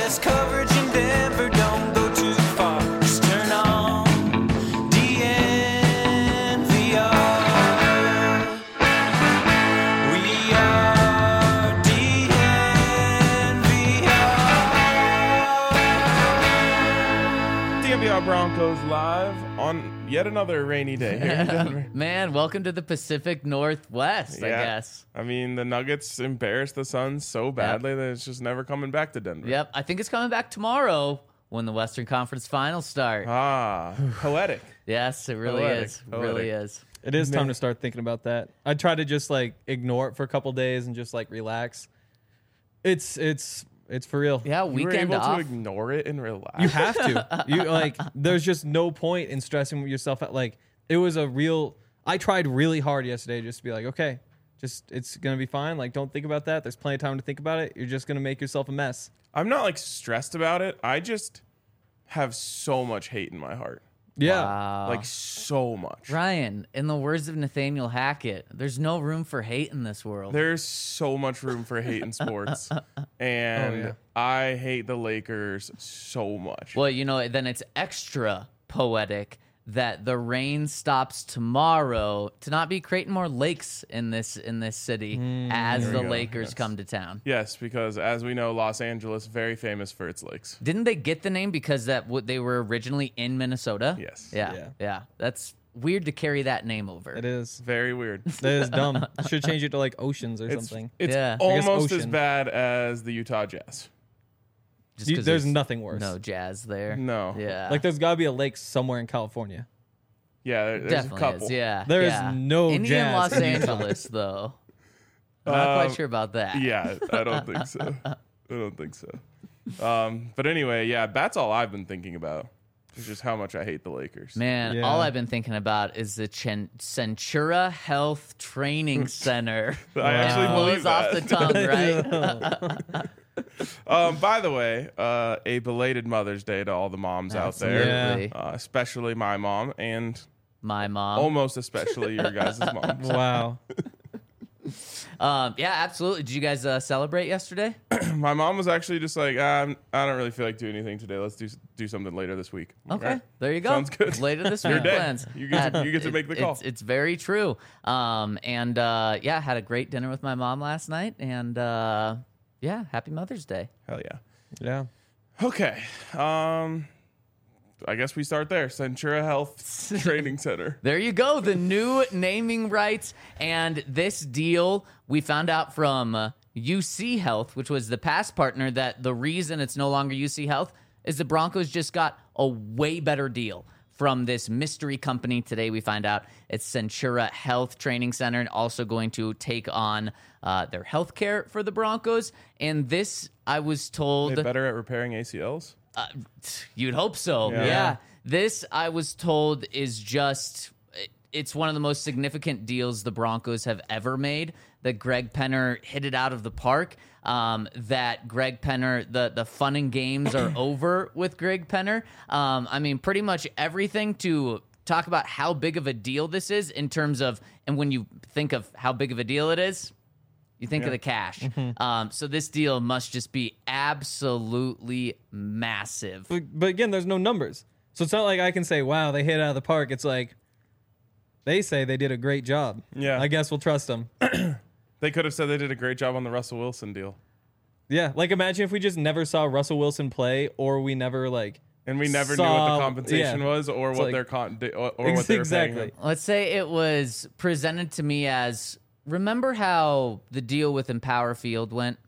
best coverage in Denver. Don't go too far. Just turn on DNVR. We are DNVR. DNVR Broncos live on yet another rainy day here in Denver. Man, welcome to the Pacific Northwest, I guess. I mean, the Nuggets embarrassed the Suns so badly that it's just never coming back to Denver. Yep, I think it's coming back tomorrow when the Western Conference Finals start. Ah, poetic. Yes, it really Poetic, is. It really is. It is time to start thinking about that. I try to just like ignore it for a couple days and just like relax. It's for real. Yeah, You were weekend able off. to ignore it and relax. You have to. You like. There's just no point in stressing yourself out. Like it was a real. I tried really hard yesterday just to be like, okay, just it's gonna be fine. Like don't think about that. There's plenty of time to think about it. You're just gonna make yourself a mess. I'm not like stressed about it. I just have so much hate in my heart. Yeah. Wow. Like so much. Ryan, in the words of Nathaniel Hackett, there's no room for hate in this world. There's so much room for hate in sports. And yeah. I hate the Lakers so much. Well, you know, then it's extra poetic that the rain stops tomorrow to not be creating more lakes in this city as There the we go, Lakers yes. come to town. Yes, because as we know, Los Angeles, very famous for its lakes. Didn't they get the name because they were originally in Minnesota? Yes. Yeah. That's weird to carry that name over. It is. Very weird. That is dumb. Should change it to like oceans or something. It's Yeah. I guess almost as ocean. bad as the Utah Jazz. Just 'cause There's nothing worse. no jazz there. No. Yeah. Like there's got to be a lake somewhere in California. Yeah, there's a Definitely couple. is. Yeah. There is yeah. no Any jazz in Los in Utah. Angeles though. I'm not quite sure about that. Yeah, I don't think so. I don't think so. But anyway, yeah, that's all I've been thinking about. Is just how much I hate the Lakers. Man, Yeah. all I've been thinking about is the Centura Health Training Center. I actually It believe blows off the that. tongue, right? By the way, a belated Mother's Day to all the moms out there, Absolutely. especially my mom and My mom. almost especially your guys' moms. Wow. Yeah, absolutely. Did you guys celebrate yesterday? My mom was actually just like, I don't really feel like doing anything today. Let's do something later this week. Okay, Right. there you go. Sounds good. Later this Your week day. plans. You get to make the call. It's very true. Yeah, had a great dinner with my mom last night, and yeah, happy Mother's Day. Hell yeah. Yeah. Okay. I guess we start there. Centura Health Training Center. There you go, the new naming rights. And this deal, we found out from UC Health, which was the past partner, that the reason it's no longer UC Health is the Broncos just got a way better deal from this mystery company. Today we find out it's Centura Health Training Center, and also going to take on their health care for the Broncos. And this, I was told... They better at repairing ACLs? You'd hope so. Yeah. Yeah. This, I was told, is just, it's one of the most significant deals the Broncos have ever made. That Greg Penner hit it out of the park. That Greg Penner, the fun and games are over with Greg Penner. I mean, pretty much everything to talk about how big of a deal this is in terms of, and when you think of how big of a deal it is, you think of the cash. So this deal must just be absolutely massive. But again, there's no numbers. So it's not like I can say, wow, they hit it out of the park. It's like they say they did a great job. Yeah. I guess we'll trust them. They could have said they did a great job on the Russell Wilson deal. Yeah. Like imagine if we just never saw Russell Wilson play, or we never like. And we never knew what the Saw- compensation yeah. was, or It's what like- their or what they were paying him. Let's say it was presented to me as, remember how the deal with Empower Field went?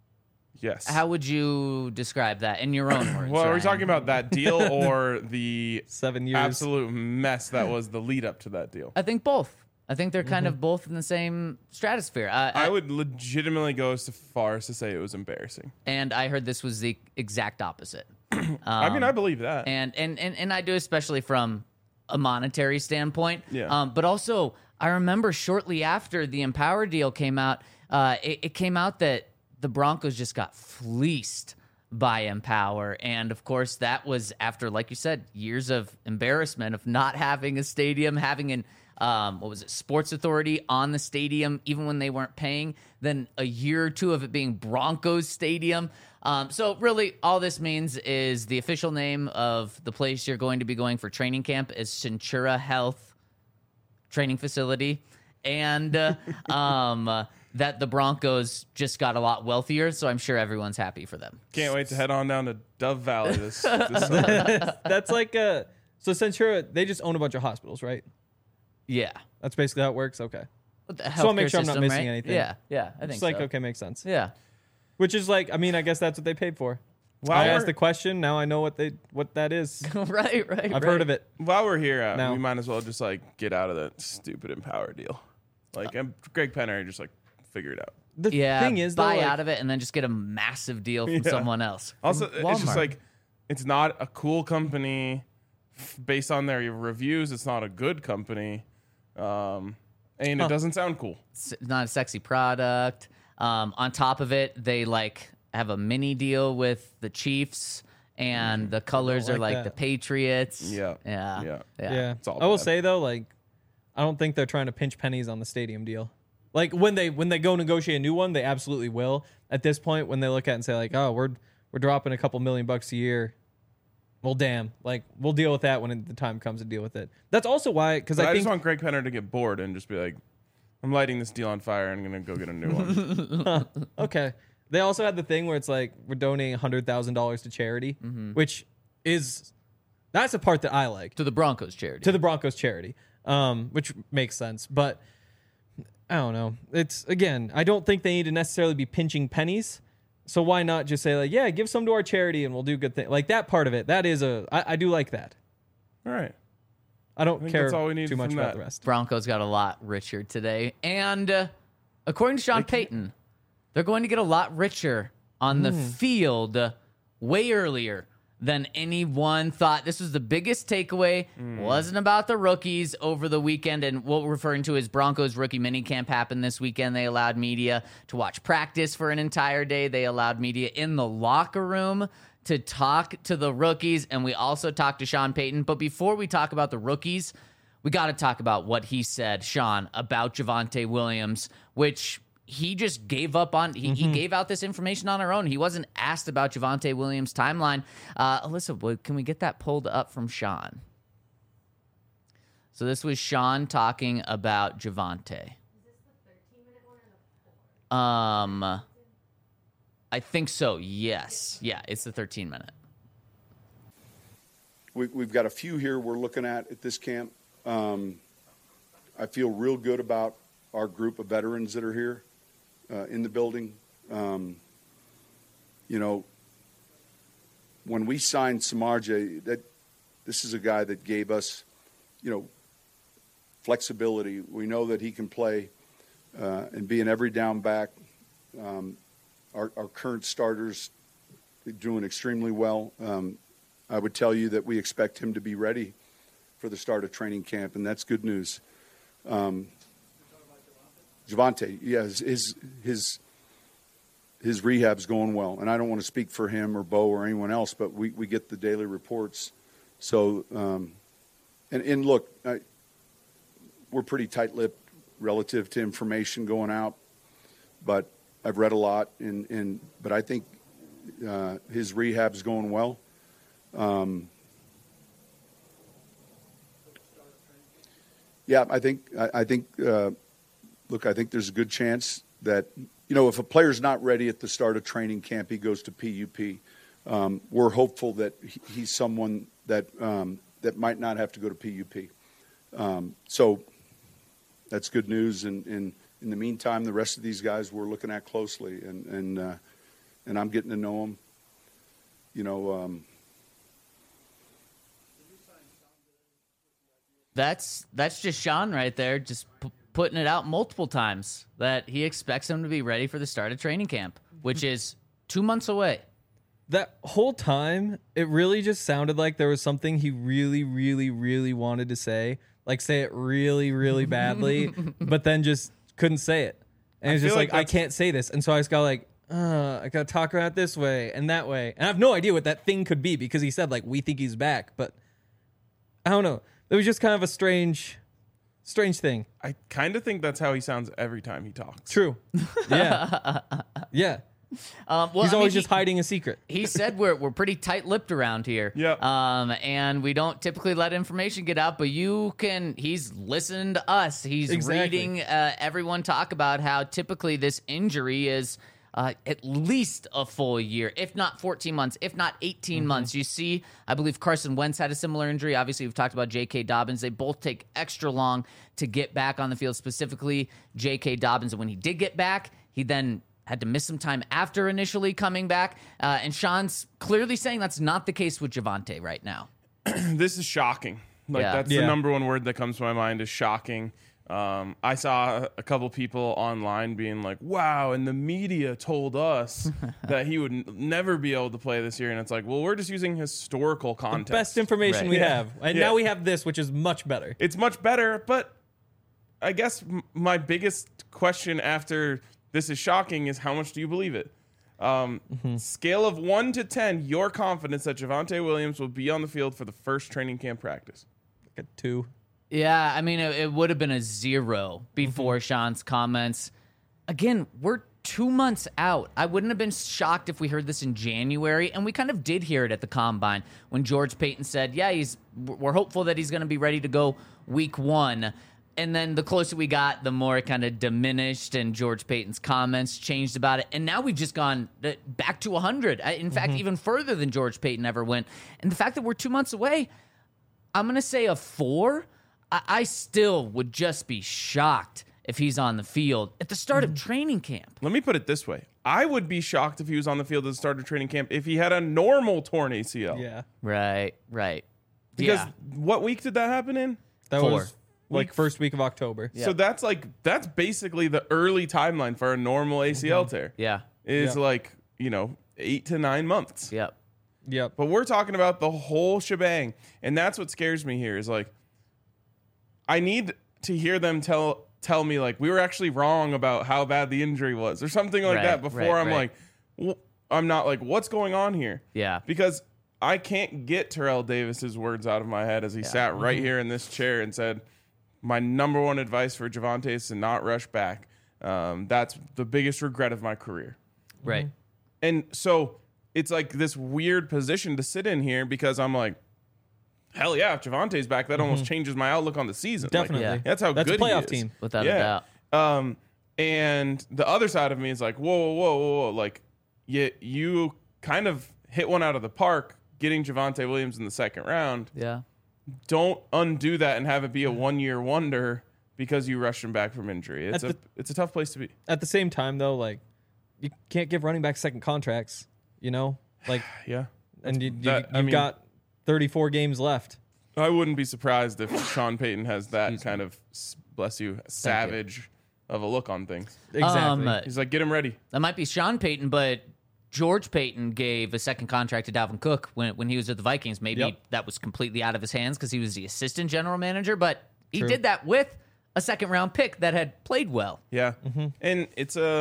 Yes. How would you describe that in your own words? Well, are we Ryan? talking about that deal or the 7 years. absolute mess that was the lead up to that deal? I think both. I think they're kind of both in the same stratosphere. I would legitimately go as far as to say it was embarrassing. And I heard this was the exact opposite. I mean, I believe that. And I do, especially from a monetary standpoint. Yeah. But also, I remember shortly after the Empower deal came out, it came out that the Broncos just got fleeced by Empower. And of course, that was after, like you said, years of embarrassment of not having a stadium, having what was it, Sports Authority on the stadium, even when they weren't paying. Then a year or two of it being Broncos Stadium. So really, all this means is the official name of the place you're going to be going for training camp is Centura Health Training Facility, and that the Broncos just got a lot wealthier. So I'm sure everyone's happy for them. Can't wait to head on down to Dove Valley this summer. That's like so Centura, they just own a bunch of hospitals, right? Yeah. That's basically how it works. Okay. The Just want to make healthcare sure I'm not system, missing right? anything. Yeah, I think It's like, so. okay, makes sense. Yeah. Which is like, I mean, I guess that's what they paid for. While I we're- asked the question. Now I know what that is. right. I've heard of it. While we're here, No. we might as well just like get out of that stupid Empower deal. Like Greg Penner, just like figure it out. The Yeah, thing is, though, buy like, out of it and then just get a massive deal from Yeah. someone else. Also, From it's just Walmart. like it's not a cool company based on their reviews. It's not a good company, and it doesn't sound cool. It's not a sexy product. On top of it, they like have a mini deal with the Chiefs, and the colors are like like that. the Patriots. Yeah. Yeah. Yeah, It's all I will bad. say though, like, I don't think they're trying to pinch pennies on the stadium deal. Like when they go negotiate a new one, they absolutely will. At this point, when they look at it and say like, oh, we're dropping a couple $1 million a year. Well, damn, like we'll deal with that when the time comes to deal with it. That's also why, because But I I think just want Greg Penner to get bored and just be like, I'm lighting this deal on fire and I'm going to go get a new one. okay. They also had the thing where it's like we're donating $100,000 to charity, which is that's a part that I like. To the Broncos charity. To the Broncos charity, which makes sense. But I don't know. It's again, I don't think they need to necessarily be pinching pennies. So why not just say like, yeah, give some to our charity and we'll do good things. Like that part of it, that is I do like that. All right. I don't think care that's all we need too much from about that. the rest. Broncos got a lot richer today. And according to Sean Payton, they're going to get a lot richer on the field way earlier than anyone thought. This was the biggest takeaway. Wasn't about the rookies over the weekend. And what we're referring to is Broncos rookie minicamp happened this weekend. They allowed media to watch practice for an entire day. They allowed media in the locker room to talk to the rookies. And we also talked to Sean Payton. But before we talk about the rookies, we got to talk about what he said, Sean, about Javonte Williams, which he just gave up on. He gave out this information on our own. He wasn't asked about Javonte Williams' timeline. Alyssa, can we get that pulled up from Sean? So this was Sean talking about Javonte. I think so. Yes. Yeah, it's the 13-minute. We've got a few here we're looking at this camp. I feel real good about our group of veterans that are here in the building. You know, when we signed Samardzija, this is a guy that gave us, you know, flexibility. We know that he can play and be an every down back. Our current starters are doing extremely well. I would tell you that we expect him to be ready for the start of training camp, and that's good news. Javonte, yeah, his rehab's going well, and I don't want to speak for him or Bo or anyone else, but we get the daily reports. So, and look, we're pretty tight-lipped relative to information going out, but I've read a lot, but I think his rehab's going well. Yeah, I think. Look, I think there's a good chance that, you know, if a player's not ready at the start of training camp, he goes to PUP. We're hopeful that he's someone that that might not have to go to PUP. So that's good news. And in the meantime, the rest of these guys we're looking at closely, and I'm getting to know them. You know. That's just Sean right there, just putting it out multiple times that he expects him to be ready for the start of training camp, which is 2 months away. That whole time, it really just sounded like there was something he really, really, really wanted to say. Like, say it really, really badly, but then just couldn't say it. And it's just feel like like I that's- can't say this. And so I just got like, I got to talk about it this way and that way. And I have no idea what that thing could be because he said, like, we think he's back. But I don't know. It was just kind of a strange Strange thing. I kind of think that's how he sounds every time he talks. True. Yeah. Yeah. Well, He's I always mean, just hiding a secret. He said we're pretty tight-lipped around here. Yeah. And we don't typically let information get out, but he's listening to us. He's Exactly. reading everyone talk about how typically this injury is at least a full year, if not 14 months, if not 18 months. You see, I believe Carson Wentz had a similar injury. Obviously, we've talked about J.K. Dobbins. They both take extra long to get back on the field, specifically J.K. Dobbins. And when he did get back, he then had to miss some time after initially coming back. And Sean's clearly saying that's not the case with Javonte right now. This is shocking. Like Yeah. that's Yeah. the number one word that comes to my mind is shocking. I saw a couple people online being like, wow, and the media told us that he would never be able to play this year. And it's like, well, we're just using historical context. Best information Right. we Yeah. have. And Yeah. now we have this, which is much better. It's much better, but I guess my biggest question after this is shocking is how much do you believe it? Scale of 1 to 10, your confidence that Javonte Williams will be on the field for the first training camp practice. Like a 2. Yeah, I mean, it would have been a 0 before Sean's comments. Again, we're 2 months out. I wouldn't have been shocked if we heard this in January, and we kind of did hear it at the Combine when George Payton said, yeah, we're hopeful that he's going to be ready to go week 1. And then the closer we got, the more it kind of diminished, and George Payton's comments changed about it. And now we've just gone back to 100. In fact, even further than George Payton ever went. And the fact that we're 2 months away, I'm going to say a 4. I still would just be shocked if he's on the field at the start of training camp. Let me put it this way. I would be shocked if he was on the field at the start of training camp if he had a normal torn ACL. Yeah. Right. Because Yeah. what week did that happen in? That 4. was like first week of October. So that's basically the early timeline for a normal ACL tear. Yeah. Is Yeah. like, 8 to 9 months. Yep. Yep. But we're talking about the whole shebang. And that's what scares me here is like, I need to hear them tell me like we were actually wrong about how bad the injury was or something like Right, that before right, I'm right. like, I'm not like, what's going on here? Yeah. Because I can't get Terrell Davis's words out of my head as he sat right here in this chair and said, my number one advice for Javonte is to not rush back. That's the biggest regret of my career. Right. And so it's like this weird position to sit in here because I'm like, hell yeah, if Javonte's back, that almost changes my outlook on the season. Definitely. Yeah. That's how That's a good he playoff is. team. Without a doubt. And the other side of me is like, whoa. Like, you kind of hit one out of the park getting Javonte Williams in the second round. Yeah. Don't undo that and have it be a 1-year wonder because you rushed him back from injury. It's a tough place to be. At the same time, though, like, you can't give running backs second contracts, Like, Yeah. and I you've mean- got 34 games left. I wouldn't be surprised if Sean Payton has that kind of, bless you, savage of a look on things. Exactly. He's like, get him ready. That might be Sean Payton, but George Payton gave a second contract to Dalvin Cook when he was at the Vikings. Maybe Yep. that was completely out of his hands because he was the assistant general manager, but he True. did that with a second-round pick that had played well. Yeah. And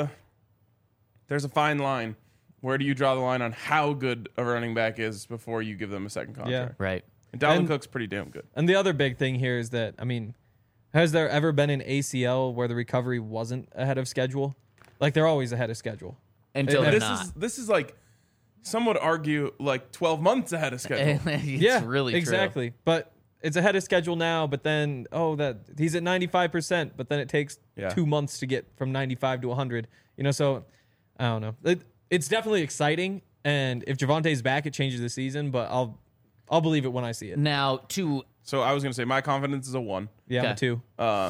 there's a fine line. Where do you draw the line on how good a running back is before you give them a second contract? Right. And Dalvin And- Cook's pretty damn good. And the other big thing here is that, has there ever been an ACL where the recovery wasn't ahead of schedule? Like, they're always ahead of schedule. Until they're This not. this is like, some would argue like 12 months ahead of schedule. It's really true. exactly. But it's ahead of schedule now, but then, that he's at 95%, but then it takes Yeah. 2 months to get from 95 to 100. So I don't know. It's definitely exciting, and if Javonte's back, it changes the season, but I'll believe it when I see it. Now, So I was going to say my confidence is a 1. Yeah, Okay. me too.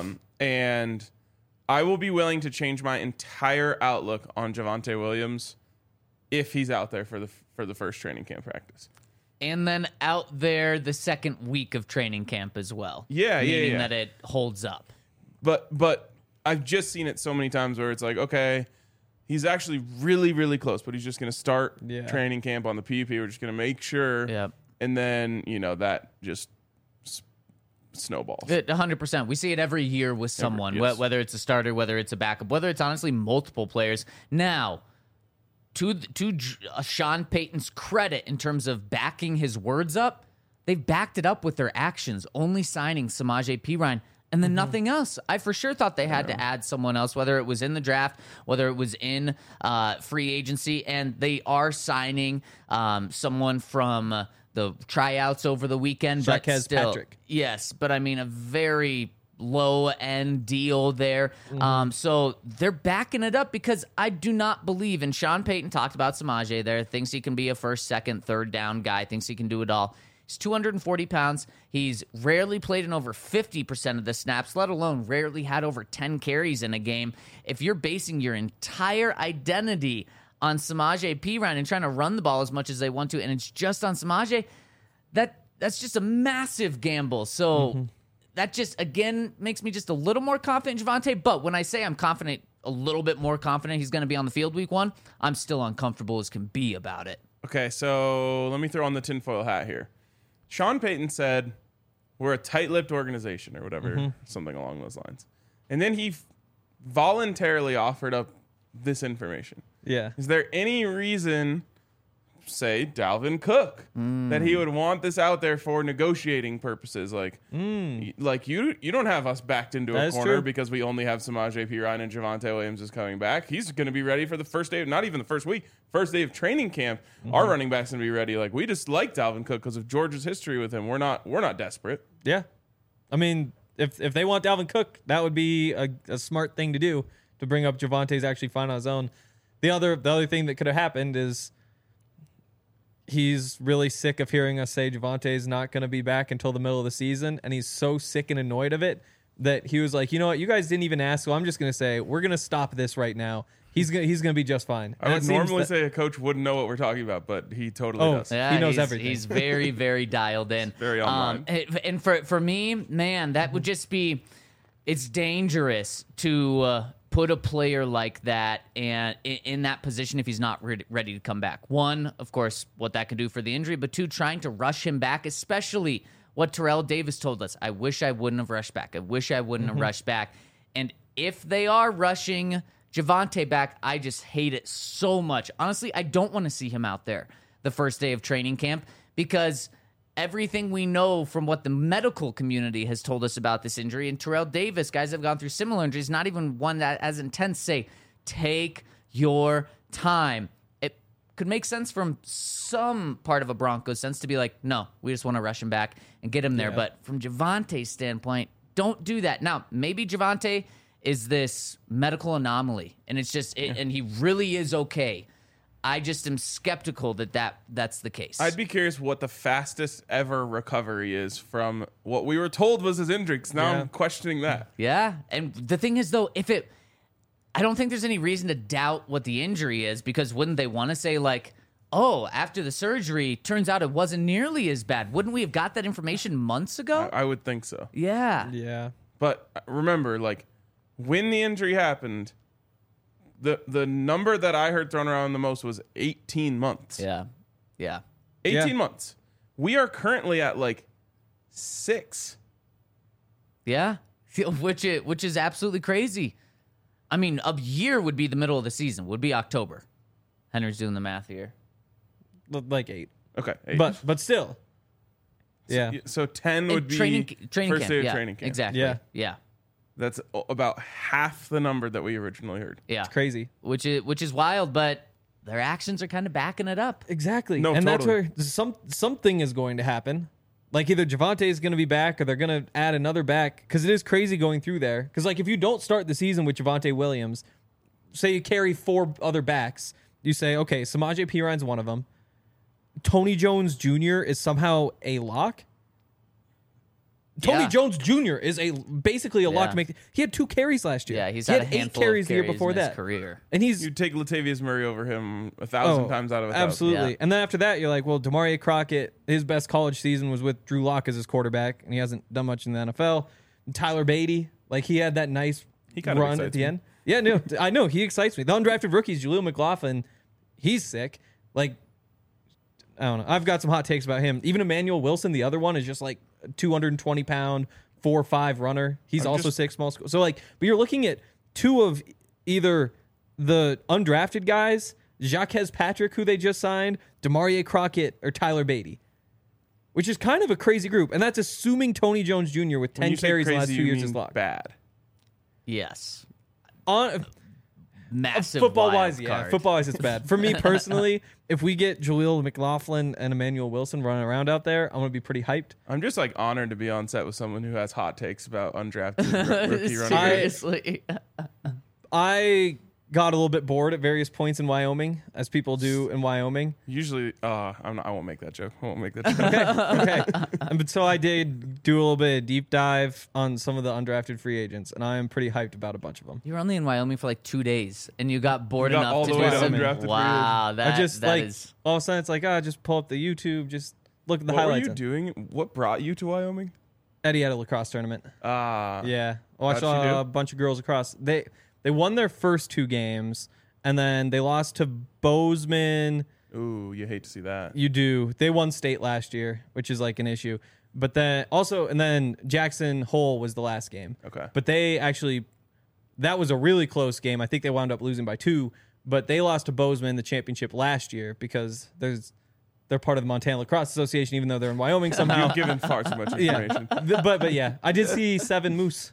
And I will be willing to change my entire outlook on Javonte Williams if he's out there for the first training camp practice. and then out there the second week of training camp as well. Yeah, meaning yeah. that it holds up. But I've just seen it so many times where it's like, okay, he's actually really, really close, but he's just going to start Yeah. training camp on the PUP. We're just going to make sure. Yep. And then, that just snowballs. 100%. We see it every year with someone, yes. whether it's a starter, whether it's a backup, whether it's honestly multiple players. Now, to Sean Payton's credit in terms of backing his words up, they've backed it up with their actions, only signing Samaje Perine and then nothing else. I for sure thought they had to add someone else, whether it was in the draft, whether it was in free agency, and they are signing someone from the tryouts over the weekend. But Jaquez still, Patrick. yes, but I mean a very low end deal there. So they're backing it up because I do not believe, and Sean Payton talked about Samaje there, thinks he can be a first, second, third down guy, thinks he can do it all. He's 240 pounds. He's rarely played in over 50% of the snaps, let alone rarely had over 10 carries in a game. If you're basing your entire identity on Samaje Perine and trying to run the ball as much as they want to, and it's just on Samaje, that's just a massive gamble. So that just, again, makes me just a little more confident in Javonte. But when I say I'm confident, a little bit more confident he's going to be on the field week 1, I'm still uncomfortable as can be about it. Okay, so let me throw on the tinfoil hat here. Sean Payton said, we're a tight-lipped organization or whatever, something along those lines. And then he voluntarily offered up this information. Yeah. Is there any reason, say, Dalvin Cook, that he would want this out there for negotiating purposes? Like you don't have us backed into That a is corner true. because we only have Samaje Perine and Javonte Williams is coming back. He's going to be ready for the first day, not even the first week, first day of training camp. Our running back's going to be ready. Like, we just like Dalvin Cook because of Georgia's history with him. We're not desperate. Yeah. I mean, if they want Dalvin Cook, that would be a smart thing to do, to bring up Javonte's actually fine on his own. The other thing that could have happened is he's really sick of hearing us say Javonte's not going to be back until the middle of the season, and he's so sick and annoyed of it that he was like, you know what, you guys didn't even ask, so I'm just going to say we're going to stop this right now. He's gonna be just fine. I would normally say a coach wouldn't know what we're talking about, but he totally does. Yeah, he knows he's, everything. He's very, very dialed in. Very online. And for me, man, that would just be, it's dangerous to put a player like that and in that position if he's not ready to come back. One, of course, what that could do for the injury, but two, trying to rush him back, especially what Terrell Davis told us. I wish I wouldn't have rushed back. I wish I wouldn't have rushed back. And if they are rushing Javonte back, I just hate it so much. Honestly, I don't want to see him out there the first day of training camp because everything we know from what the medical community has told us about this injury, and Terrell Davis, guys have gone through similar injuries, not even one that as intense, say, take your time. It could make sense from some part of a Broncos sense to be like, no, we just want to rush him back and get him there. But from Javonte's standpoint, don't do that. Now, maybe Javonte is this medical anomaly, and it's just, and he really is okay. I just am skeptical that's the case. I'd be curious what the fastest ever recovery is from what we were told was his injury, because now I'm questioning that. Yeah, and the thing is, though, I don't think there's any reason to doubt what the injury is, because wouldn't they want to say, like, oh, after the surgery, turns out it wasn't nearly as bad? Wouldn't we have got that information months ago? I would think so. Yeah. Yeah. But remember, like, when the injury happened, the number that I heard thrown around the most was 18 months. Yeah. 18 months. We are currently at, like, 6. Yeah. Which is absolutely crazy. I mean, a year would be the middle of the season, would be October. Henry's doing the math here. Like 8. Okay. 8. But still. Yeah. So 10 would be training first camp. day of Yeah, training camp. Exactly. Yeah. Yeah. That's about half the number that we originally heard. Yeah. It's crazy. Which is wild, but their actions are kind of backing it up. Exactly. No, and totally. that's where something is going to happen. Like either Javonte is going to be back or they're going to add another back, because it is crazy going through there. Because like if you don't start the season with Javonte Williams, say you carry 4 other backs, you say, okay, Samaje Perine's one of them. Tony Jones Jr. is somehow a lock. Tony Yeah. Jones Jr. is basically a lock Yeah. to make. He had 2 carries last year. Yeah, he's he had had a 8 handful carries of the year carries before in his that. career. And he's You'd take Latavius Murray over him 1,000 times out of 1,000. Absolutely. Yeah. And then after that, you're like, well, Demaria Crockett, his best college season was with Drew Lock as his quarterback, and he hasn't done much in the NFL. And Tyler Beatty, like he had that nice kind of run at excites the me. end. Yeah, no, I know he excites me. The undrafted rookies, Jaleel McLaughlin, he's sick. Like, I don't know. I've got some hot takes about him. Even Emmanuel Wilson, the other one, is just like a 220-pound, 4.5 runner. He's I'm also just- sick, small school. So like, but you're looking at 2 of either the undrafted guys, Jaquez Patrick, who they just signed, Demaria Crockett, or Tyler Beatty. which is kind of a crazy group, and that's assuming Tony Jones Jr. with When 10 you say carries in the last crazy, 2 you years is mean locked. bad. Yes. On Massive football wild wise, yeah, card. football wise, it's bad. For me personally, if we get Jaleel McLaughlin and Emmanuel Wilson running around out there, I'm gonna be pretty hyped. I'm just like honored to be on set with someone who has hot takes about undrafted rookie running backs. Seriously. I got a little bit bored at various points in Wyoming, as people do in Wyoming. Usually, I won't make that joke. I won't make that joke. Okay. But so I did do a little bit of deep dive on some of the undrafted free agents, and I am pretty hyped about a bunch of them. You were only in Wyoming for like 2 days, and you got bored You got enough all to the do way to some. undrafted free Wow, that, I just that like is- all of a sudden it's like, just pull up the YouTube, just look at the What were highlights. you doing? What brought you to Wyoming? Eddie had a lacrosse tournament. How'd Yeah, I watched she do? a bunch of girls across. They won their first 2 games, and then they lost to Bozeman. Ooh, you hate to see that. You do. They won state last year, which is like an issue. But then also, and then Jackson Hole was the last game. Okay. But they actually, that was a really close game. I think they wound up losing by 2. But they lost to Bozeman in the championship last year because they're part of the Montana Lacrosse Association, even though they're in Wyoming somehow. You've given far too much information. But yeah, I did see 7 moose.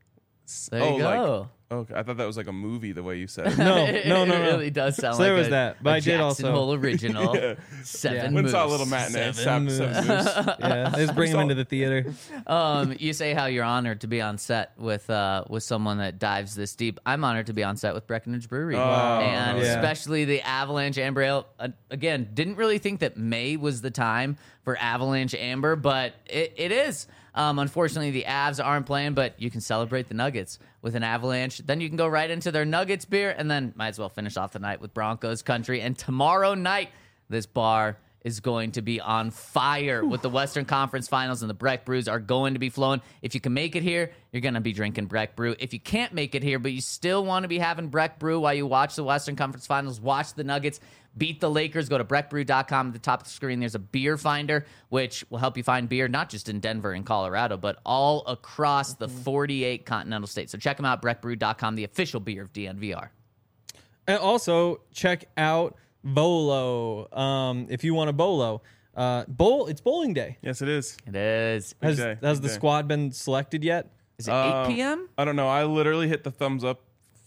There you go. Okay, I thought that was like a movie. The way you said it. No. It really does sound So like there was a, that, but a I did Jackson also- Hole original. Yeah. 7 Went and moose. saw a little matinee. Seven moose. Yeah, they just bring them into the theater. You say how you're honored to be on set with someone that dives this deep. I'm honored to be on set with Breckenridge Brewery, and yeah. especially the Avalanche Amber Ale. Again, didn't really think that May was the time for Avalanche Amber, but it is. Unfortunately, the Avs aren't playing, but you can celebrate the Nuggets with an Avalanche. Then you can go right into their Nuggets beer, and then might as well finish off the night with Broncos country. And tomorrow night, this bar is going to be on fire with the Western Conference Finals, and the Breck Brews are going to be flowing. If you can make it here, you're going to be drinking Breck Brew. If you can't make it here, but you still want to be having Breck Brew while you watch the Western Conference Finals, watch the Nuggets beat the Lakers, go to breckbrew.com. At the top of the screen, there's a beer finder, which will help you find beer, not just in Denver and Colorado, but all across the 48 continental states. So check them out, breckbrew.com, the official beer of DNVR. And also check out Bolo. If you want a Bolo, it's bowling day. Yes, it is. It is. Has day, has big the day. squad been selected yet? Is it 8 p.m.? I don't know. I literally hit the thumbs up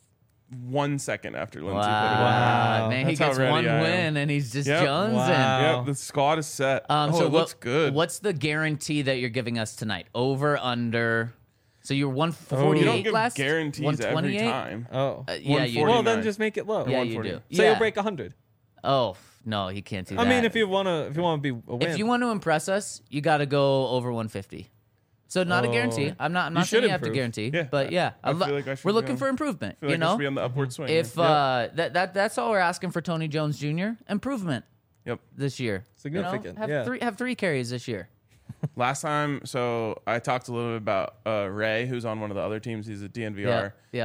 1 second after Lindsay put it in. Wow. Man, he That's how gets ready one I am. win, and he's just Yep. jonesing. Wow. Yep, the squad is set. So it looks good. What's the guarantee that you're giving us tonight? Over, under? So you were 148 You don't give last? guarantees every 128? time. Oh. Yeah, you 140. do. Well, then 49. just make it low. Yeah, you 140. do. Say yeah. you'll break 100. Oh, no, he can't do that. I mean, if you want to be a win. If you want to impress us, you got to go over 150. So not a guarantee. I'm not saying should you have to improve. guarantee, Yeah, but yeah, I feel like I should we're be looking on- for improvement. I feel You like I should know, be on the upward swing. if that's all we're asking for Tony Jones Jr. improvement Yep. this year. Significant, You know, yeah. have 3 carries this year. Last time, so I talked a little bit about Ray, who's on one of the other teams. He's a DNVR Yeah,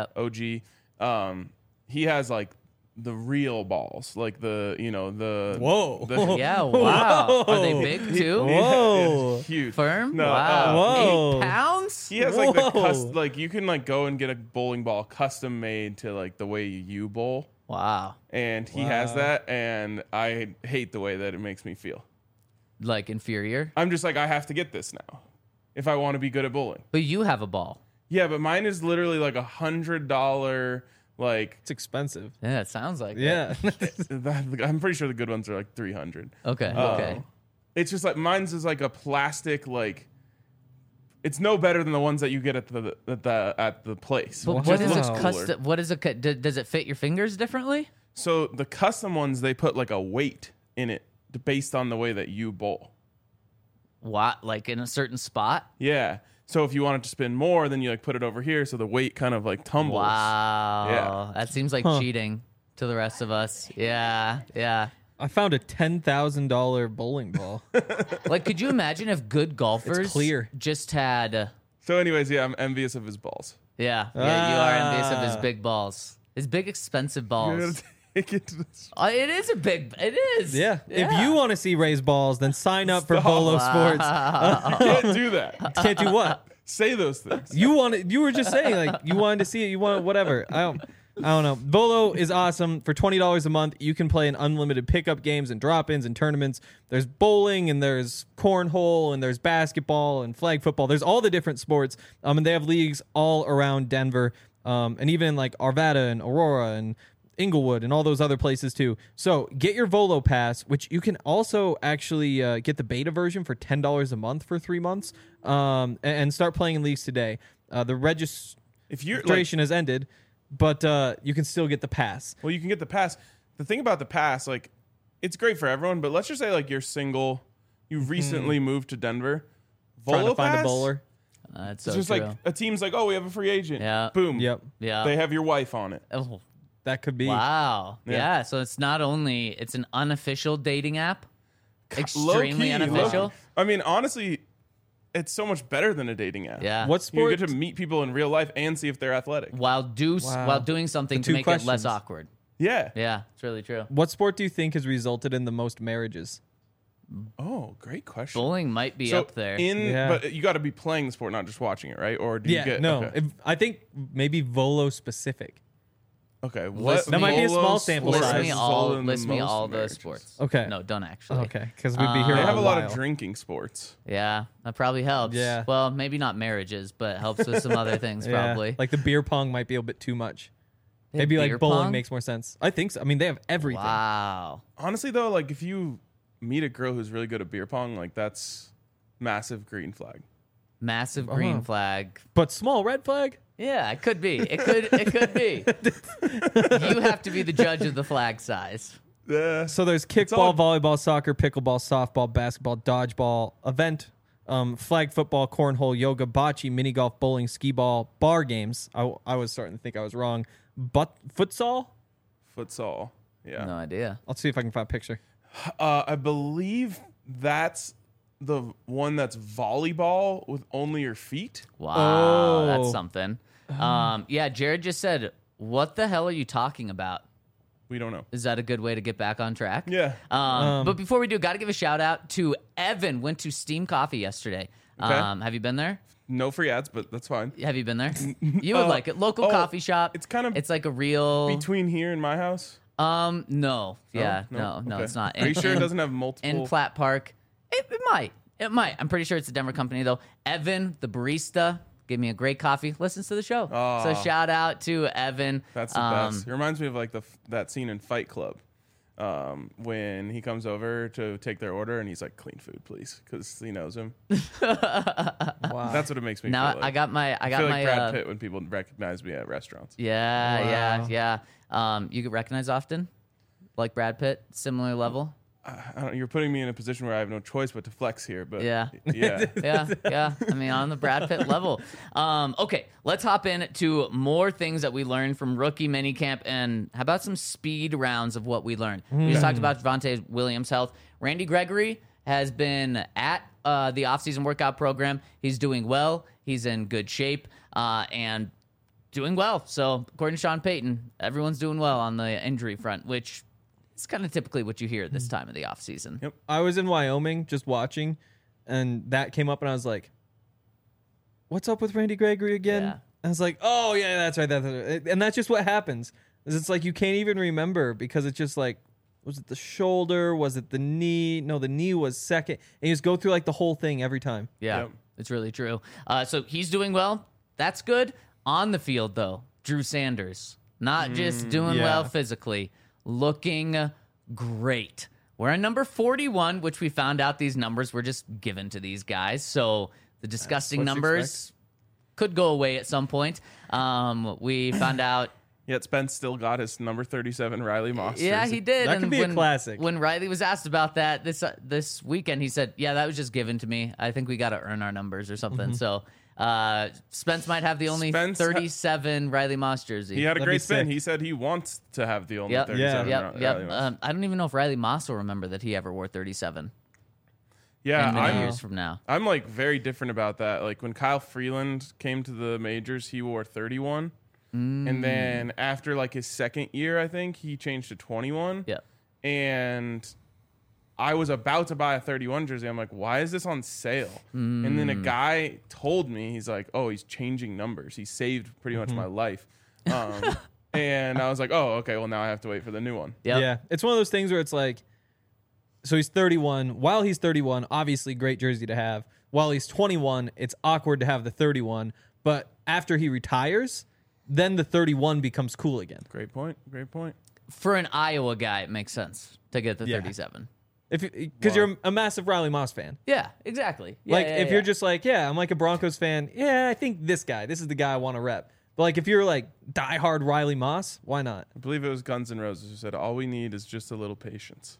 OG. He has like the real balls, like the Whoa. the- Yeah, wow. Are they big too? Whoa. huge Firm? No, Wow. Whoa. 8 pounds? He has like the Whoa. like you can like go and get a bowling ball custom made to like the way you bowl, Wow. and he has that, and I hate the way that it makes me feel. Like inferior. I'm just like I have to get this now if I want to be good at bowling. But you have a ball. Yeah, but mine is literally like $100. Like It's expensive. Yeah, it sounds like it. Yeah. I'm pretty sure the good ones are like 300. Okay. Okay. It's just like mine's is like a plastic like. It's no better than the ones that you get at the place. But It what just is looks it cooler. custom? What is it? Does it fit your fingers differently? So the custom ones they put like a weight in it based on the way that you bowl. What? Like in a certain spot? Yeah. So if you want it to spin more, then you like put it over here so the weight kind of like tumbles. Wow. Yeah. That seems like cheating to the rest of us. Yeah. Yeah. I found a $10,000 bowling ball. Like, could you imagine if good golfers clear. just had? So anyways, yeah, I'm envious of his balls. Yeah. You are envious of his big balls. His big expensive You balls. gotta take it to the It is a big. It is. Yeah. If you want to see Ray's balls, then sign up for Stop. Bolo Sports. can't do that. Can't do what? Say those things. You were just saying like you wanted to see it. You want whatever. I don't. I don't know. Volo is awesome. For $20 a month, you can play in unlimited pickup games and drop-ins and tournaments. There's bowling and there's cornhole and there's basketball and flag football. There's all the different sports. And they have leagues all around Denver, and even in like Arvada and Aurora and Inglewood and all those other places too. So get your Volo Pass, which you can also actually get the beta version for $10 a month for 3 months, and start playing in leagues today. The If you're like, registration has ended, but you can still get the pass. well, you can get the pass. The thing about the pass, like, it's great for everyone, but let's just say like you're single, you recently moved to Denver, Trying Volo to find pass, a bowler. That's It's so just true. like a team's like, oh, we have a free agent. Yeah. Boom. Yep. Yeah. They have your wife on it. Oh, That could be. wow. Yeah. Yeah. So it's not only it's an unofficial dating app, extremely Low-key, unofficial. low-key. I mean, honestly, it's so much better than a dating app. Yeah. What You sport? get to meet people in real life and see if they're athletic. While doing something The to two make it less questions. awkward. Yeah. Yeah, it's really true. What sport do you think has resulted in the most marriages? Oh, great question. Bowling might be So up there. Yeah. But you got to be playing the sport, not just watching it, right? Or do you get no. Okay. I think maybe Volo specific. Okay, List That might be a small sample list size. me all the most sports. Okay. No, don't actually. Okay, because we'd be here. They a have a lot while. of drinking sports. Yeah, that probably helps. Yeah. Well, maybe not marriages, but helps with some other things Yeah. probably. Like the beer pong might be a bit too much. They have Maybe beer like bowling pong? makes more sense. I think so. I mean, they have everything. Wow. Honestly, though, like if you meet a girl who's really good at beer pong, like that's massive green flag. Massive green Uh-huh. flag. But small red flag? Yeah, it could be. It could be. You have to be the judge of the flag size. So there's all- kickball, volleyball, soccer, pickleball, softball, basketball, dodgeball, event, flag football, cornhole, yoga, bocce, mini golf, bowling, skee ball, bar games. I was starting to think I was wrong. But futsal? Futsal. Yeah. No idea. I'll see if I can find a picture. I believe that's the one that's volleyball with only your feet. Wow, Oh. that's something. Yeah, Jared just said, "What the hell are you talking about?" We don't know. Is that a good way to get back on track? Yeah. But before we do, got to give a shout out to Evan. Went to Steam Coffee yesterday. Okay. Have you been there? No free ads, but that's fine. Have you been there? You would like it. Local coffee shop. it's kind of It's like a real. Between here and my house. No. Yeah. No. Okay. It's not. Are you sure it In- doesn't have multiple? in Platt Park? It might. It might. I'm pretty sure it's a Denver company though. Evan, the barista, gave me a great coffee. Listens to the show. Oh. So shout out to Evan. That's the best. It reminds me of like that scene in Fight Club, when he comes over to take their order and he's like, "Clean food, please," because he knows him. Wow. That's what it makes me Now feel like. I got my. I feel like Brad Pitt when people recognize me at restaurants. Yeah. You get recognized often, like Brad Pitt, similar level. I don't, you're putting me in a position where I have no choice but to flex here. But Yeah. yeah. Yeah. I mean, on the Brad Pitt level. Okay, let's hop into more things that we learned from rookie minicamp, and how about some speed rounds of what we learned? We just talked about Javonte Williams' health. Randy Gregory has been at the offseason workout program. He's doing well. He's in good shape and doing well. So, according to Sean Payton, everyone's doing well on the injury front, which is kind of typically what you hear at this time of the offseason. Yep. I was in Wyoming just watching, and that came up, and I was like, "What's up with Randy Gregory again?" Yeah. I was like, "Oh yeah, that's right, that's right." And that's just what happens. Is it's like you can't even remember because it's just like, was it the shoulder? Was it the knee? No, the knee was second. And you just go through like the whole thing every time. Yeah, Yep. it's really true. So he's doing well. That's good. On the field, though, Drew Sanders, not just doing yeah. well physically, looking great. We're at number 41, which we found out these numbers were just given to these guys. So the disgusting what you numbers could go away at some point. We found out. Yet Spence still got his number 37 Riley Moss. Yeah, jersey. he did. That And could be a classic. When Riley was asked about that this weekend, he said, "Yeah, that was just given to me. I think we got to earn our numbers or something." So Spence might have the only Spence 37 Riley Moss jersey. He had a That'd great be spin. sick. He said he wants to have the only Yep. 37 Yep. Riley Yep. Moss. I don't even know if Riley Moss will remember that he ever wore 37 Yeah, in many I'm, years from now. I'm like very different about that. Like when Kyle Freeland came to the majors, he wore 31. And then after like his second year, I think he changed to 21. Yeah. And I was about to buy a 31 jersey. I'm like, why is this on sale? And then a guy told me, he's like, oh, he's changing numbers. He saved pretty much my life. And I was like, oh, okay, well, now I have to wait for the new one. Yep. Yeah, it's one of those things where it's like, so he's 31. While he's 31, obviously great jersey to have. While he's 21, it's awkward to have the 31. But after he retires, then the 31 becomes cool again. Great point. Great point. For an Iowa guy, it makes sense to get the Yeah. 37. Because you're a massive Riley Moss fan. Yeah, exactly. Yeah, Like, yeah, if yeah. you're just like, yeah, I'm like a Broncos fan. Yeah, I think this is the guy I want to rep. But like, if you're like diehard Riley Moss, why not? I believe it was Guns N' Roses who said, all we need is just a little patience.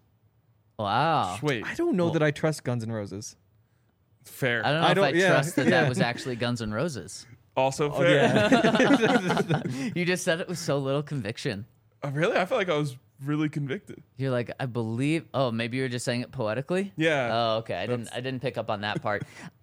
Wow. Wait, I don't know that I trust Guns N' Roses. fair. I don't know if I yeah, trust that yeah. that was actually Guns N' Roses. Also fair. Yeah. You just said it with so little conviction. Oh, really? I felt like I was really convicted. You're like, I believe. Oh, maybe you were just saying it poetically. Yeah. Oh, okay. I didn't pick up on that part.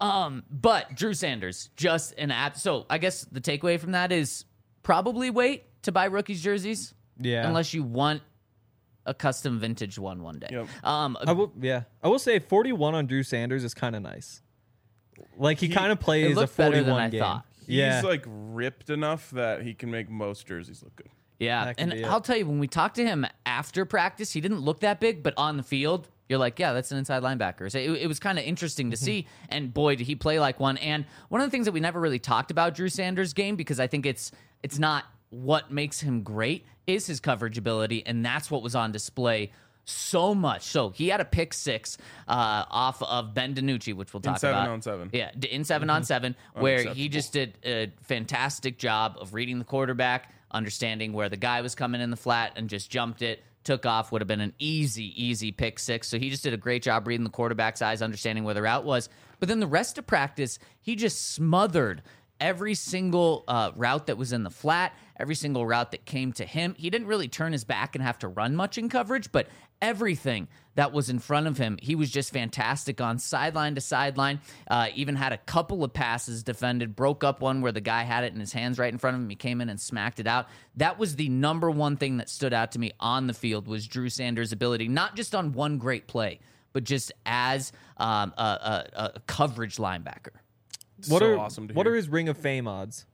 But Drew Sanders, just an app. So I guess the takeaway from that is probably wait to buy rookies jerseys. Yeah. Unless you want a custom vintage one day. Yep. I will say 41 on Drew Sanders is kind of nice. Like he kind of plays a looked better 41 than I game. thought. Yeah. He's like ripped enough that he can make most jerseys look good. Yeah, That could and be it. I'll tell you, when we talked to him after practice, he didn't look that big, but on the field, you're like, yeah, that's an inside linebacker. So it was kind of interesting to see, and boy, did he play like one. And one of the things that we never really talked about Drew Sanders' game, because I think it's not what makes him great, is his coverage ability, and that's what was on display so much. So he had a pick six off of Ben DiNucci, which we'll talk about. 7-on-7. Yeah, in 7-on-7, where he Unacceptable. just did a fantastic job of reading the quarterback, understanding where the guy was coming in the flat, and just jumped it, took off. Would have been an easy pick six. So he just did a great job reading the quarterback's eyes, understanding where the route was. But then the rest of practice, he just smothered every single route that was in the flat, every single route that came to him. He didn't really turn his back and have to run much in coverage, but everything that was in front of him, he was just fantastic on sideline to sideline. Even had a couple of passes defended, broke up one where the guy had it in his hands right in front of him. He came in and smacked it out. That was the number one thing that stood out to me on the field, was Drew Sanders' ability, not just on one great play, but just as a coverage linebacker. What So are awesome to what hear. are his Ring of Fame odds?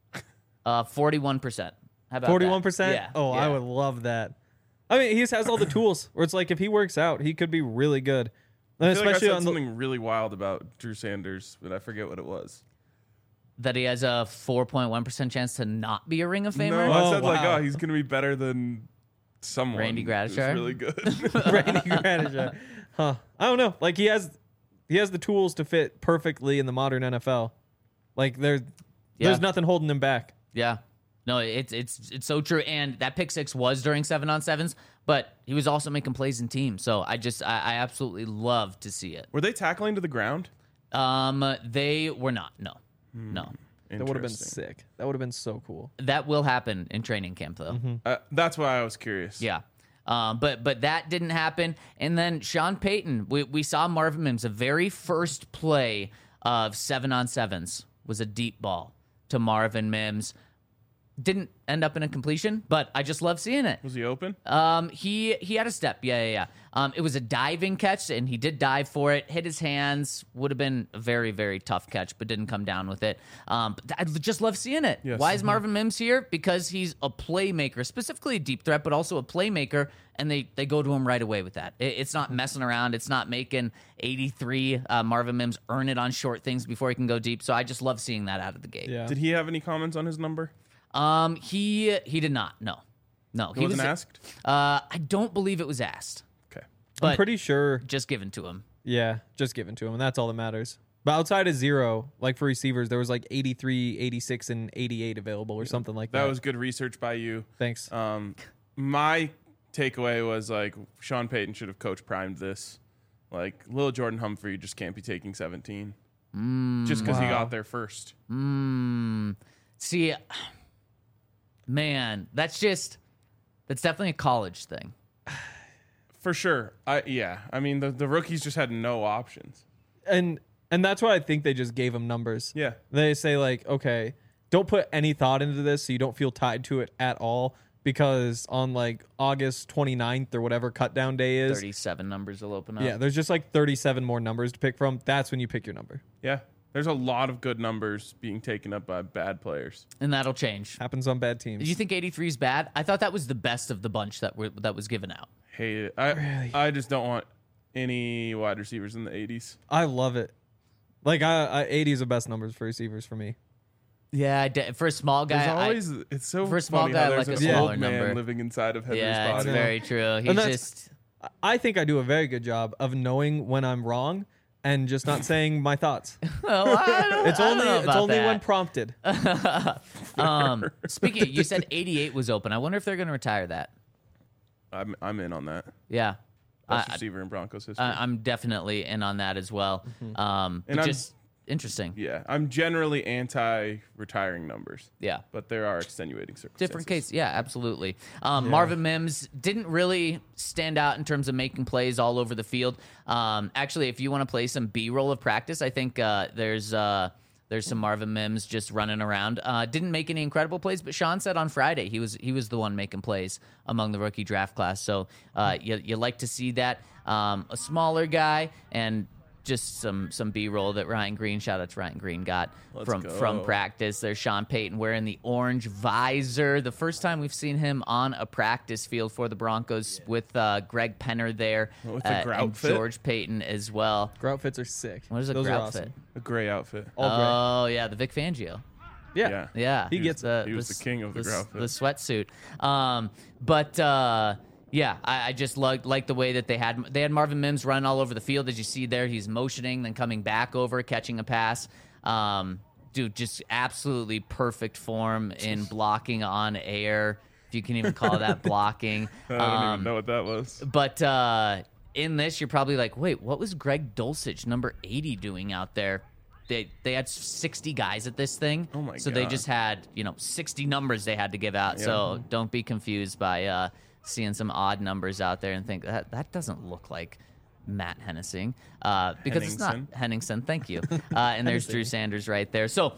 41%. How about 41%? that? Yeah. Oh, yeah. I would love that. I mean, he just has all the tools where it's like if he works out, he could be really good. And I feel like I especially said on the something really wild about Drew Sanders, but I forget what it was. That he has a 4.1% chance to not be a Ring of No, Famer. I Oh, said like, wow. oh, he's gonna be better than someone. Randy who's Gradishar? really good. Randy Gradishar. Huh. I don't know. Like he has the tools to fit perfectly in the modern NFL. Like there's nothing holding him back. Yeah. No, it's so true. And that pick six was during 7-on-7s, but he was also making plays in teams. So I absolutely love to see it. Were they tackling to the ground? They were not. No. No. That would have been Interesting. sick. That would have been so cool. That will happen in training camp though. That's why I was curious. Yeah. But that didn't happen. And then Sean Payton, we saw Marvin Mims. The very first play of 7-on-7s was a deep ball to Marvin Mims. Didn't end up in a completion, but I just love seeing it. Was he open? He had a step. Yeah. It was a diving catch, and he did dive for it. Hit his hands. Would have been a very, very tough catch, but didn't come down with it. But I just love seeing it. Yes. Why is Marvin Mims here? Because he's a playmaker, specifically a deep threat, but also a playmaker, and they go to him right away with that. It's not messing around. It's not making 83 Marvin Mims earn it on short things before he can go deep. So I just love seeing that out of the gate. Yeah. Did he have any comments on his number? He did not. No. He wasn't asked? I don't believe it was asked, Okay. but I'm pretty sure. just given to him. Yeah, just given to him, and that's all that matters. But outside of 0, like for receivers, there was like 83, 86, and 88 available or something like that. That was good research by you. Thanks. My takeaway was like Sean Payton should have coach primed this. Like Lil Jordan Humphrey just can't be taking 17. Just because he got there first. See, man, that's definitely a college thing. For sure. I mean, the rookies just had no options. and that's why I think they just gave him numbers. Yeah. They say like, okay, don't put any thought into this so you don't feel tied to it at all, because on like August 29th or whatever cut down day is, 37 numbers will open up. yeah, there's just like 37 more numbers to pick from. That's when you pick your number. Yeah. There's a lot of good numbers being taken up by bad players. And that'll change. Happens on bad teams. Do you think 83 is bad? I thought that was the best of the bunch that was given out. Hate it. I just don't want any wide receivers in the 80s. I love it. Like 80 is the best numbers for receivers for me. Yeah, for a small guy, There's always it's so for a small funny guy, how like there's a an smaller old man number. living inside of Henry's yeah, it's body. very true. He And that's- just I think I do a very good job of knowing when I'm wrong and just not saying my thoughts. well, I don't, It's I don't only know it's about only that. when prompted. Speaking, you said 88 was open. I wonder if they're going to retire that. I'm in on that. Yeah, Best receiver in Broncos history. I'm definitely in on that as well. And But I'm- just interesting. yeah, I'm generally anti-retiring numbers, Yeah. but there are extenuating circumstances. Different case. Yeah, absolutely. Marvin Mims didn't really stand out in terms of making plays all over the field. Actually, if you want to play some B-roll of practice, I think there's some Marvin Mims just running around. Didn't make any incredible plays, but Sean said on Friday he was the one making plays among the rookie draft class. So you like to see that. A smaller guy and just some B-roll that Ryan Green, shout out to Ryan Green, got from go. practice. There's Sean Payton wearing the orange visor. The first time we've seen him on a practice field for the Broncos with Greg Penner there With the grout and fit? George Payton as well. Grout fits are sick. What is a Those are grout awesome. fit? A gray outfit. All gray. Oh, yeah, the Vic Fangio. Yeah. Yeah, He gets He was the king of the grout fit. the sweatsuit. Yeah, I just like the way that they had Marvin Mims run all over the field. As you see there, he's motioning, then coming back over, catching a pass. Dude, just absolutely perfect form in blocking on air, if you can even call that blocking. I don't even know what that was. But in this, you're probably like, wait, what was Greg Dulcich, number 80, doing out there? They had 60 guys at this thing. Oh, my So they God. just had, 60 numbers they had to give out. So don't be confused by seeing some odd numbers out there and think that doesn't look like Matt Henningsen, because it's not Henningsen. Thank you. And there's Drew Sanders right there. So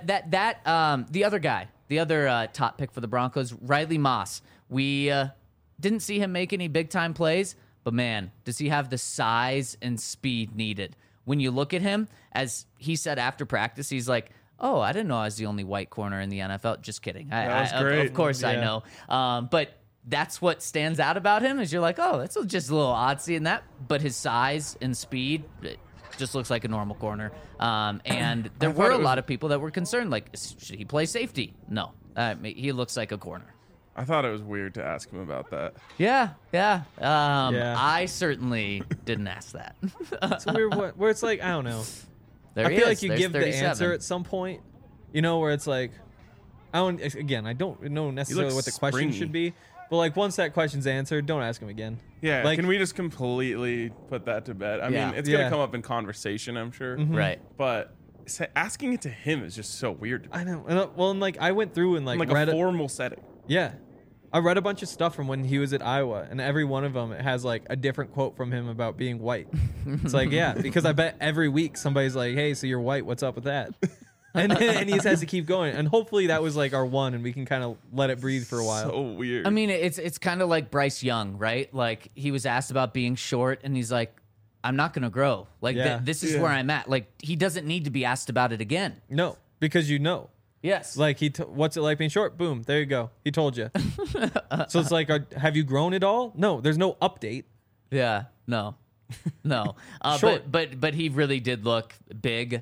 the other guy, the other top pick for the Broncos, Riley Moss. We didn't see him make any big time plays, but man, does he have the size and speed needed? When you look at him, as he said after practice, he's like, "Oh, I didn't know I was the only white corner in the NFL." Just kidding. That was Of great. course I know. But that's what stands out about him is you're like, oh, that's just a little odd seeing that. But his size and speed, it just looks like a normal corner. And there were a lot of people that were concerned, like, should he play safety? No. He looks like a corner. I thought it was weird to ask him about that. Yeah. Yeah. I certainly didn't ask that. It's a weird one where it's like, I don't know. There I he feel is. like you There's give 37. the answer at some point, where it's like, I don't know necessarily what the question springy. should be, but like once that question's answered, don't ask him again. Yeah, Like- can we just completely put that to bed? I Yeah. mean, it's going Yeah. to come up in conversation, I'm sure. Right. But asking it to him is just so weird. I know. And like I went through and like, Like read a formal setting. Yeah. I read a bunch of stuff from when he was at Iowa, and every one of them has like a different quote from him about being white. It's like, yeah, because I bet every week somebody's like, "Hey, so you're white? What's up with that?" And he just has to keep going. And hopefully that was like our one, and we can kind of let it breathe for a while. So weird. I mean, it's kind of like Bryce Young, right? Like he was asked about being short, and he's like, "I'm not going to grow. Like Yeah. this is Yeah. where I'm at." Like he doesn't need to be asked about it again. No, because Yes. like what's it like being short? Boom, there you go. He told you. So it's like, have you grown at all? No, there's no update. Yeah. No. No. Short. But he really did look big,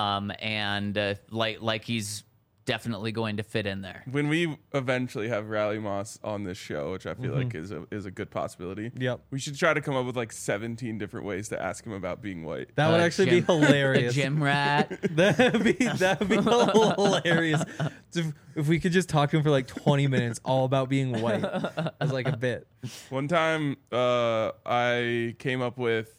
and like he's definitely going to fit in there. when we eventually have Riley Moss on this show, which I feel like is a good possibility. Yep. We should try to come up with like 17 different ways to ask him about being white. That would actually be A hilarious. gym rat. That'd be hilarious. If we could just talk to him for like 20 minutes all about being white as like a bit. One time, I came up with,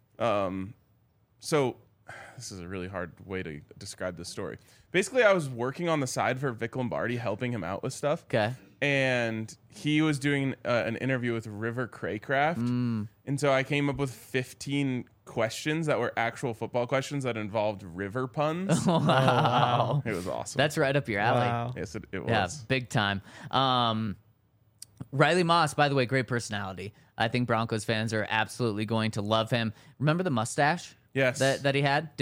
so this is a really hard way to describe this story. Basically, I was working on the side for Vic Lombardi, helping him out with stuff. Okay. And he was doing an interview with River Craycraft. And so I came up with 15 questions that were actual football questions that involved river puns. Wow. It was awesome. That's right up your alley. Wow. yes, it Yeah, was. big time. Riley Moss, by the way, great personality. I think Broncos fans are absolutely going to love him. Remember the mustache Yes. that he had.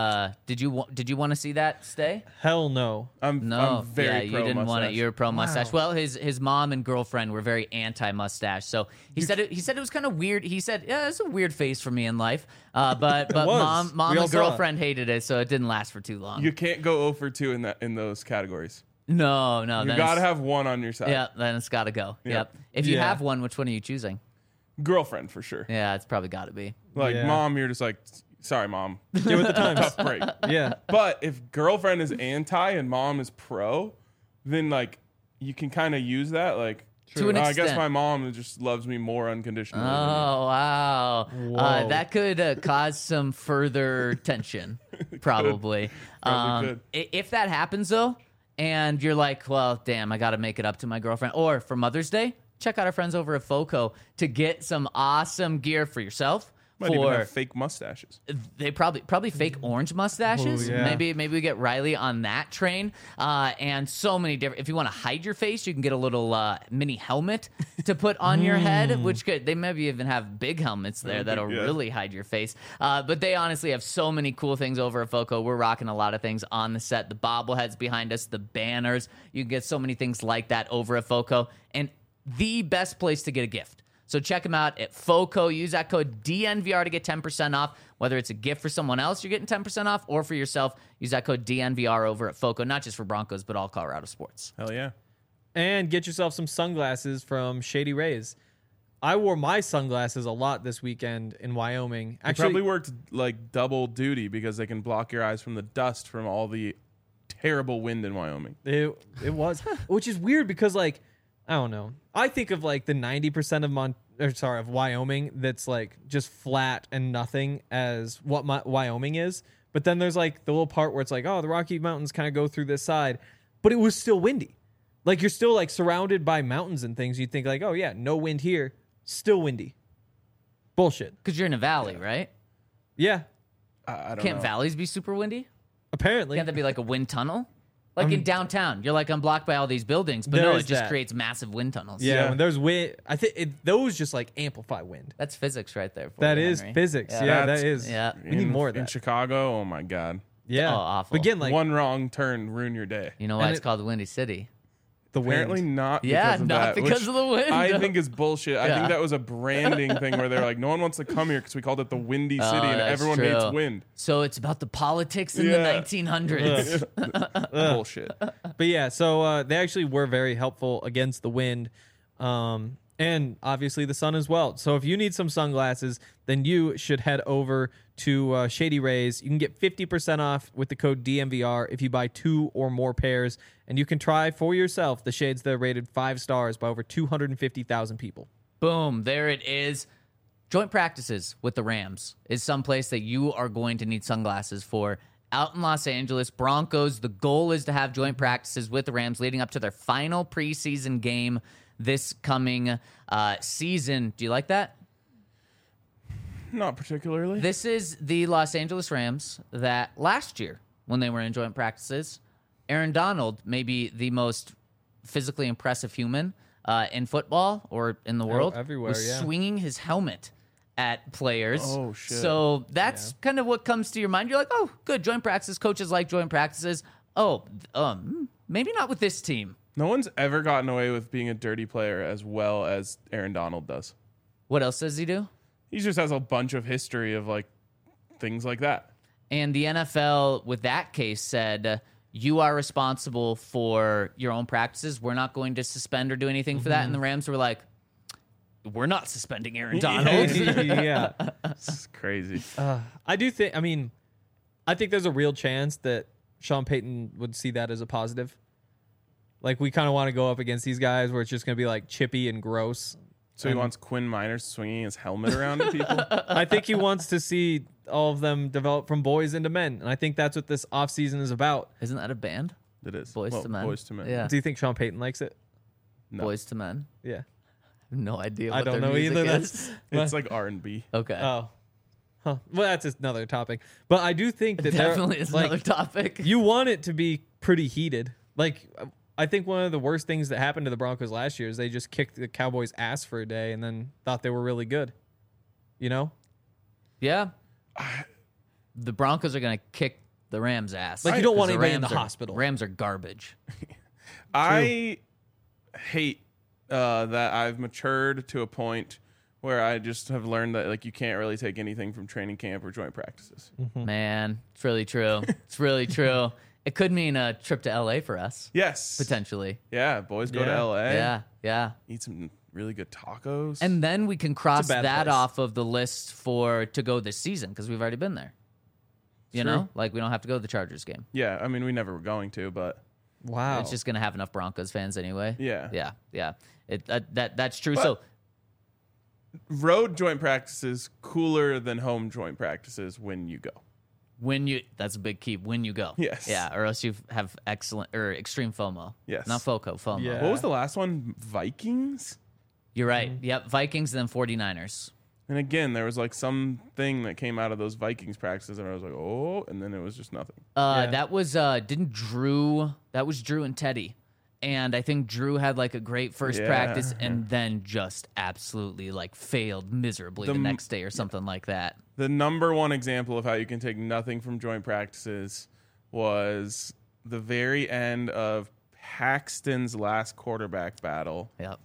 Did you want to see that stay? Hell no. I'm very yeah, you pro didn't want it. mustache. You're pro mustache. Well, his mom and girlfriend were very anti mustache. So he said it was kind of weird. He said, "Yeah, it's a weird phase for me in life." But was. mom We all and saw it. girlfriend hated it, so it didn't last for too long. You can't go 0 for 2 in those categories. No, You then got to it's- have one on your side. Yeah, then it's got to go. Yeah. Yep. If you Yeah. have one, which one are you choosing? Girlfriend for sure. Yeah, it's probably got to be. Like Yeah. mom, you're just like, sorry, mom, Get with the times. tough break. Yeah. But if girlfriend is anti and mom is pro, then like you can kind of use that. Like, To an I guess extent. my mom just loves me more unconditionally. than you." Oh wow, Whoa. that could cause some further tension, probably. Probably If that happens though, and you're like, well, damn, I got to make it up to my girlfriend, or for Mother's Day, check out our friends over at FOCO to get some awesome gear for yourself. Might even for have fake mustaches. they probably fake orange mustaches. Ooh, yeah. Maybe we get Riley on that train. And so many different. If you want to hide your face, you can get a little mini helmet to put on your head, which could they maybe even have big helmets there that'll yeah. really hide your face. But they honestly have so many cool things over at FOCO. We're rocking a lot of things on the set. The bobbleheads behind us, the banners. You can get so many things like that over at FOCO, and the best place to get a gift. So check them out at FOCO. Use that code DNVR to get 10% off. Whether it's a gift for someone else, you're getting 10% off, or for yourself, use that code DNVR over at FOCO. Not just for Broncos, but all Colorado sports. Hell yeah. And get yourself some sunglasses from Shady Rays. I wore my sunglasses a lot this weekend in Wyoming. They probably worked like double duty because they can block your eyes from the dust from all the terrible wind in Wyoming. It was, which is weird because like I don't know. I think of like the 90% of Wyoming that's like just flat and nothing as what Wyoming is. But then there's like the little part where it's like, oh, the Rocky Mountains kind of go through this side, but it was still windy. Like you're still like surrounded by mountains and things. You'd think like, oh yeah, no wind here, still windy. Bullshit. Because you're in a valley, right? Yeah, I don't Can't know. valleys be super windy? apparently. Can't that be like a wind tunnel? Like in downtown, you're like, I'm blocked by all these buildings, but no, There it is just that. creates massive wind tunnels. Yeah, Yeah. when there's wind, I think those just like amplify wind. That's physics right there. For That you, is Henry. physics. Yeah. Yeah, That's- that is. Yeah. We need more of In that. Chicago, oh my God. Yeah. Oh, awful. But again, like One wrong turn ruin your day. You know why And it's called the Windy City? the wind. Apparently not. Yeah, because of not that, because which of the wind. I think is bullshit. I Yeah. think that was a branding thing where they're like, no one wants to come here because we called it the Windy City, and Oh, that's everyone true. hates wind. So it's about the politics in Yeah. the 1900s. Bullshit. But yeah, so they actually were very helpful against the wind, and obviously the sun as well. So if you need some sunglasses, then you should head over to Shady Rays. You can get 50% off with the code DMVR if you buy 2 or more pairs, and you can try for yourself the shades that are rated 5 stars by over 250,000 people. Boom, there it is. Joint practices with the Rams is someplace that you are going to need sunglasses for. Out in Los Angeles, Broncos, the goal is to have joint practices with the Rams leading up to their final preseason game this coming season. Do you like that? Not particularly. This is the Los Angeles Rams that last year, when they were in joint practices, Aaron Donald, maybe the most physically impressive human in football or in the world, everywhere, was yeah. swinging his helmet at players. Oh, shit. So that's kind of what comes to your mind. You're like, oh, good, joint practices. Coaches like joint practices. Oh, maybe not with this team. No one's ever gotten away with being a dirty player as well as Aaron Donald does. What else does he do? He just has a bunch of history of like things like that. And the NFL, with that case, said, you are responsible for your own practices. We're not going to suspend or do anything for that. And the Rams were like, we're not suspending Aaron Donald. yeah. It's crazy. I do think, I think there's a real chance that Sean Payton would see that as a positive. Like, we kind of want to go up against these guys where it's just going to be like chippy and gross. So he wants Quinn Miners swinging his helmet around at people. I think he wants to see all of them develop from boys into men. And I think that's what this offseason is about. Isn't that a band? It is Boys to Men. Boys to Men. Yeah. Do you think Sean Payton likes it? No. Boys to Men. Yeah. I have no idea I what don't their know music either. is. It's like R&B. Okay. Oh. Huh. Well, that's just another topic. But I do think that there- Definitely is like, another topic. you want it to be pretty heated. Like, I think one of the worst things that happened to the Broncos last year is they just kicked the Cowboys' ass for a day and then thought they were really good. You know? Yeah. the Broncos are going to kick the Rams' ass. Like, you don't want 'Cause anybody in the Rams are- hospital. Rams are garbage. I hate that I've matured to a point where I just have learned that like you can't really take anything from training camp or joint practices. Man, it's really true. It's really true. It could mean a trip to LA for us, Yes. potentially. Yeah, boys go to Yeah. LA. Yeah, yeah. Eat some really good tacos. And then we can cross bad that place. off of the list to go this season because we've already been there. You True. know, like we don't have to go to the Chargers game. yeah, I mean we never were going to, but Wow. It's just gonna have enough Broncos fans anyway. Yeah. yeah. That's true. But- So road joint practices cooler than home joint practices when you go. that's a big key. When you go, Yes. yeah, or else you have excellent or extreme FOMO. Yes. not FOMO. Yeah. What was the last one? Vikings? You're right. Yep, Vikings and then 49ers. And again, there was like something that came out of those Vikings practices, and I was like, oh, and then it was just nothing. Yeah. That was Drew. That was Drew and Teddy, and I think Drew had like a great first Yeah. practice, and then just absolutely like failed miserably the next day or something like that. The number one example of how you can take nothing from joint practices was the very end of Paxton's last quarterback battle Yep.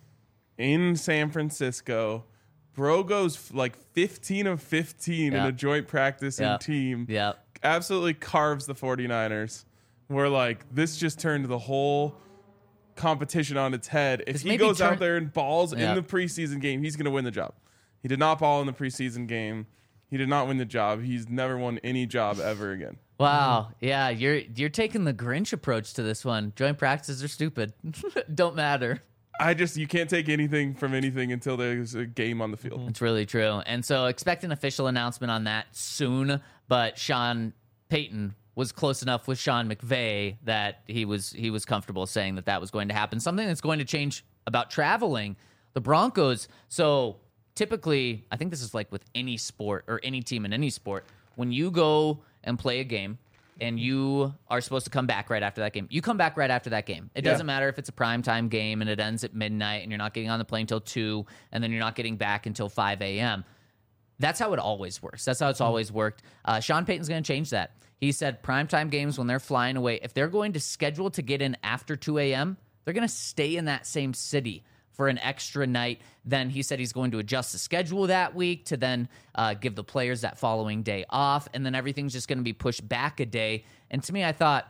in San Francisco. Bro goes like 15 of 15 in Yeah. a joint practice Yeah. and team. Yep. Absolutely carves the 49ers. We're like, this just turned the whole competition on its head. If This he maybe goes turn- out there and balls Yeah. in the preseason game, he's going to win the job. He did not ball in the preseason game. He did not win the job. He's never won any job ever again. Wow. Yeah, you're taking the Grinch approach to this one. Joint practices are stupid. Don't matter. You can't take anything from anything until there's a game on the field. It's really true. And so expect an official announcement on that soon. But Sean Payton was close enough with Sean McVay that he was comfortable saying that was going to happen. Something that's going to change about traveling. The Broncos. So typically, I think this is like with any sport or any team in any sport. When you go and play a game, and you are supposed to come back right after that game. You come back right after that game. It doesn't matter if it's a primetime game and it ends at midnight and you're not getting on the plane till 2 and then you're not getting back until 5 a.m. That's how it always works. That's how it's always worked. Sean Payton's going to change that. He said primetime games, when they're flying away, if they're going to schedule to get in after 2 a.m., they're going to stay in that same city for an extra night. Then he said he's going to adjust the schedule that week to then give the players that following day off. And then everything's just going to be pushed back a day. And to me, I thought,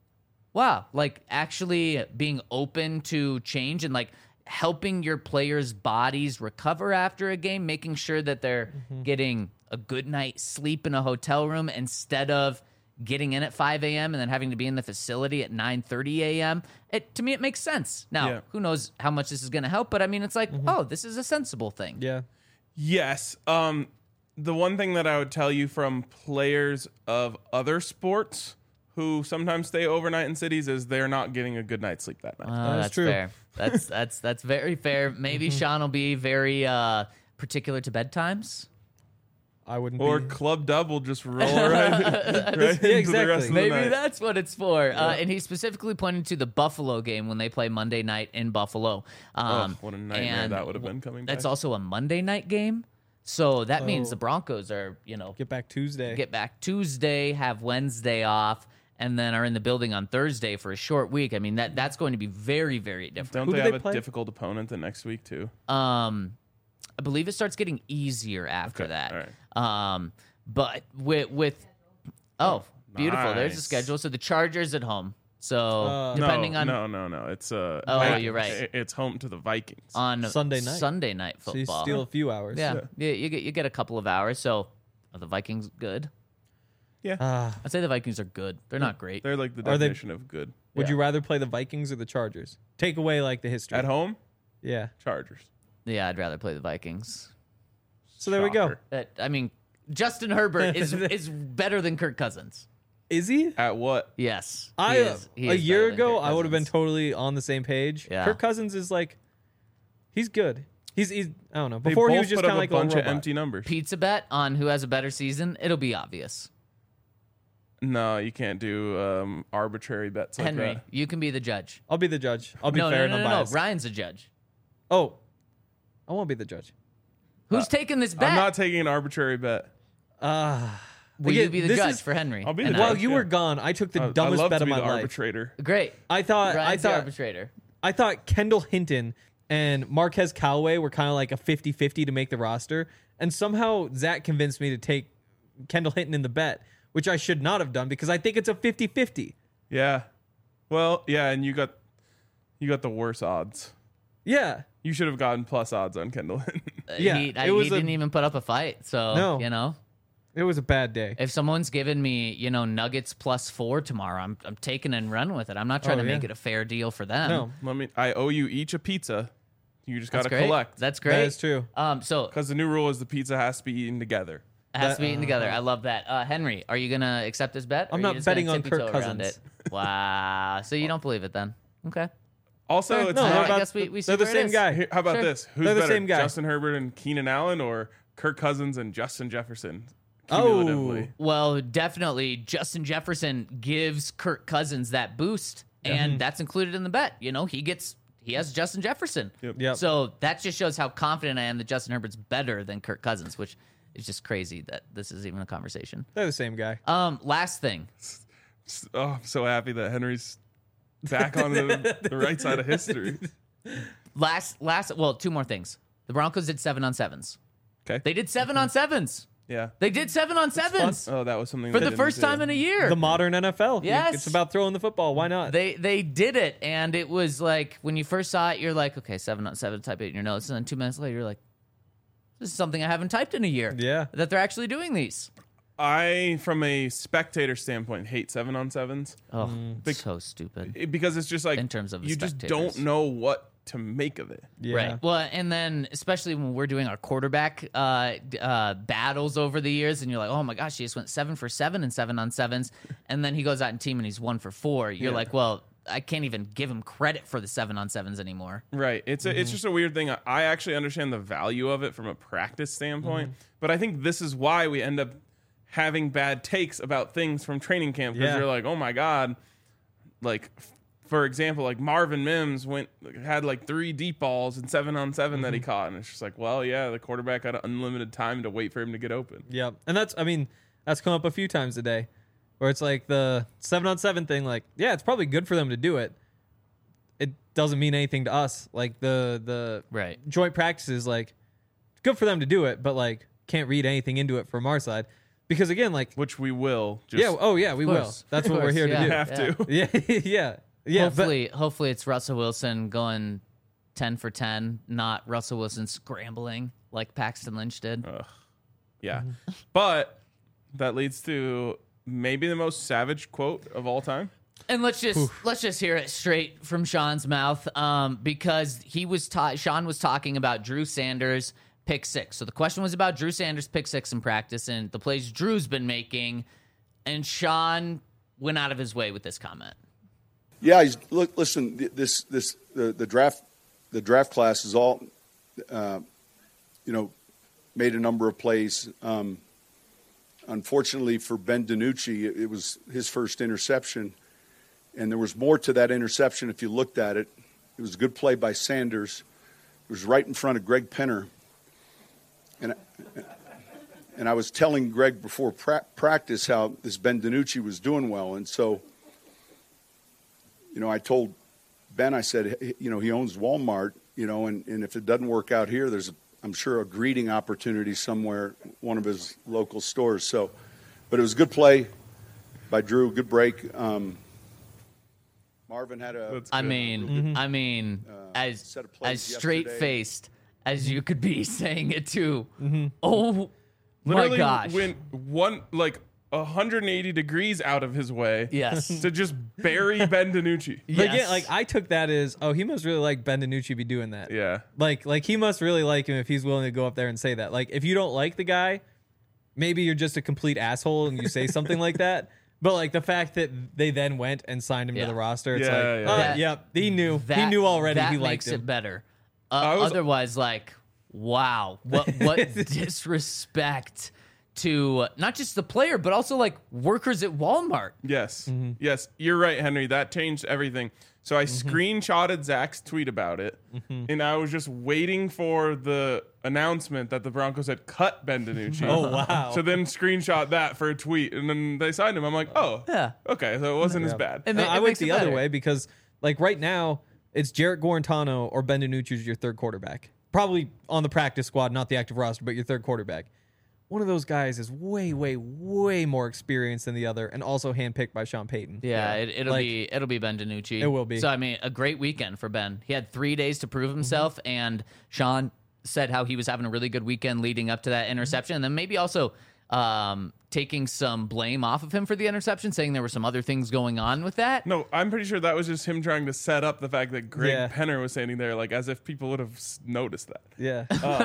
wow, like actually being open to change and like helping your players' bodies recover after a game, making sure that they're getting a good night's sleep in a hotel room instead of getting in at 5 a.m. and then having to be in the facility at 9:30 a.m. To me, it makes sense. Now, Yeah. who knows how much this is going to help, but I mean, it's like, oh, this is a sensible thing. Yeah. Yes. The one thing that I would tell you from players of other sports who sometimes stay overnight in cities is they're not getting a good night's sleep that night. That's true. fair. That's very fair. Maybe Sean will be very particular to bedtimes. I wouldn't Or be. Club Dub will just roll right into the rest exactly. of the Maybe night. that's what it's for. And he specifically pointed to the Buffalo game when they play Monday night in Buffalo. What a nightmare and that would have been coming back. That's also a Monday night game. So that means the Broncos are, Get back Tuesday. get back Tuesday, have Wednesday off, and then are in the building on Thursday for a short week. I mean, that's going to be very, very different. Don't Who they do have they a play? difficult opponent the next week too? I believe it starts getting easier after Okay, that. all right. But with beautiful. There's the nice. schedule. So the Chargers at home. So depending no, on no. It's you're right. It's home to the Vikings. on Sunday night. Sunday night So you football. steal a few hours. yeah, you get a couple of hours. So are the Vikings good? Yeah, I'd say the Vikings are good. They're not great. they're like the Are they- definition of good. Would Yeah. you rather play the Vikings or the Chargers? Take away like the history. At home, Yeah. Chargers. Yeah, I'd rather play the Vikings. So there we go. Shocker. I mean, Justin Herbert is better than Kirk Cousins. Is he? At what? Yes, A he is year better than ago, Kirk I would have been Cousins. totally on the same page. Yeah. Kirk Cousins is like, he's good. He's I don't know. They Before he both was just put kind up of like a bunch a of robot. empty numbers. Pizza bet on who has a better season. It'll be obvious. No, you can't do arbitrary bets like Henry, that. you can be the judge. I'll be the judge. I'll be No, fair no, and no, no, no. unbiased. Ryan's a judge. Oh, I won't be the judge. Who's taking this bet? I'm not taking an arbitrary bet. I Will Again, you be the this judge is- for Henry? I'll be the and judge. While I? you yeah. were gone, I took the I dumbest love bet to of be my the life. arbitrator. Great. I thought Ryan's the arbitrator. I thought Kendall Hinton and Marquez Callaway were kind of like a 50-50 to make the roster. And somehow Zach convinced me to take Kendall Hinton in the bet, which I should not have done because I think it's a 50-50. Yeah. Well, yeah, and you got the worse odds. Yeah. You should have gotten plus odds on Kendall. Yeah, he it was didn't even put up a fight. So, No. you know, It was a bad day. if someone's giving me, Nuggets +4 tomorrow, I'm taking and running with it. I'm not trying to make yeah. it a fair deal for them. No, I owe you each a pizza. You just got That's to great. collect. That's great. that is true. So Because the new rule is the pizza has to be eaten together. it has to be eaten together. I love that. Henry, are you gonna accept this bet? or I'm are you not just gonna betting on tippy-toe Kirk around Cousins. it? Wow. So you don't believe it then? Okay. Also, it's no, not. I about- guess we see they're the where it same is. guy. Here, how about Sure. this? Who's They're the better, same guy. Justin Herbert and Keenan Allen, or Kirk Cousins and Justin Jefferson? Oh. Cumulatively? Well, definitely Justin Jefferson gives Kirk Cousins that boost, and that's included in the bet. He has Justin Jefferson. Yep. So that just shows how confident I am that Justin Herbert's better than Kirk Cousins, which is just crazy that this is even a conversation. They're the same guy. Last thing. Oh, I'm so happy that Henry's back on the right side of history. Well, two more things. The Broncos did 7-on-7s. Okay. They did 7-on-7s. Yeah. They did 7-on-7s Oh, that was something for they the didn't first do. time in a year. The modern NFL. Yes. It's about throwing the football. Why not? They did it, and it was like when you first saw it, you're like, okay, 7-on-7, type it in your notes, and then 2 minutes later, you're like, this is something I haven't typed in a year. Yeah. That they're actually doing these. I, from a spectator standpoint, hate 7-on-7s Oh, so stupid. because it's just like In terms of the you just spectators. don't know what to make of it. Yeah. Right. Well, and then especially when we're doing our quarterback battles over the years, and you're like, oh my gosh, he just went 7 for 7 in 7-on-7s, and then he goes out and team and he's 1 for 4. You're Yeah. like, well, I can't even give him credit for the 7-on-7s anymore. Right. It's just a weird thing. I actually understand the value of it from a practice standpoint, but I think this is why we end up having bad takes about things from training camp because Yeah. you're like, oh my god, like for example, like Marvin Mims had like 3 deep balls and 7-on-7 that he caught, and it's just like, well, yeah, the quarterback had unlimited time to wait for him to get open. Yep. And that's come up a few times today where it's like the 7-on-7 thing, like, yeah, it's probably good for them to do it. It doesn't mean anything to us. Like the Right. joint practices, like, good for them to do it, but like can't read anything into it from our side. Because again, like, Which we will. Just yeah, oh yeah, we will. course. That's Of what we're course, here yeah. to do. have to. Yeah, yeah. But Hopefully it's Russell Wilson going 10 for 10, not Russell Wilson scrambling like Paxton Lynch did. Yeah. But that leads to maybe the most savage quote of all time. And let's just hear it straight from Sean's mouth, because Sean was talking about Drew Sanders' pick 6. So the question was about Drew Sanders' pick 6 in practice and the plays Drew's been making, and Sean went out of his way with this comment. Yeah, listen. The draft class is all, made a number of plays. Unfortunately for Ben DiNucci, it was his first interception, and there was more to that interception if you looked at it. It was a good play by Sanders. It was right in front of Greg Penner, and I was telling Greg before practice how this Ben DiNucci was doing well, and so. I told Ben, I said, he owns Walmart, and if it doesn't work out here, there's, I'm sure, a greeting opportunity somewhere, one of his local stores. So, but it was a good play by Drew, good break. Marvin had a. That's I good. mean, as set of plays straight faced as you could be saying it too. Oh Literally my gosh! went 180 degrees out of his way Yes. to just bury Ben DiNucci. But Yes. again, like I took that as, oh, he must really like Ben DiNucci be doing that. Yeah. Like he must really like him if he's willing to go up there and say that. Like if you don't like the guy, maybe you're just a complete asshole and you say something like that. But like the fact that they then went and signed him Yeah. to the roster, it's Yeah, like, yeah. oh, That- yep, he knew already That he liked makes him. it better. I was- Otherwise, like, wow, what disrespect to not just the player, but also like workers at Walmart. Yes. Yes. You're right, Henry. That changed everything. So I screenshotted Zach's tweet about it, and I was just waiting for the announcement that the Broncos had cut Ben DiNucci. Oh, wow. So then screenshot that for a tweet, and then they signed him. I'm like, oh, Yeah. okay, so it wasn't as bad. And I it went makes it the other better. way because, like, right now, it's Jarrett Guarantano or Ben DiNucci is your third quarterback. Probably on the practice squad, not the active roster, but your third quarterback. One of those guys is way, way, way more experienced than the other, and also handpicked by Sean Payton. Yeah, it'll Like, be Ben DiNucci. It will be. So I mean, a great weekend for Ben. He had 3 days to prove himself, and Sean said how he was having a really good weekend leading up to that interception, and then maybe also taking some blame off of him for the interception, saying there were some other things going on with that. No, I'm pretty sure that was just him trying to set up the fact that Greg Yeah. Penner was standing there, like as if people would have noticed that. Yeah.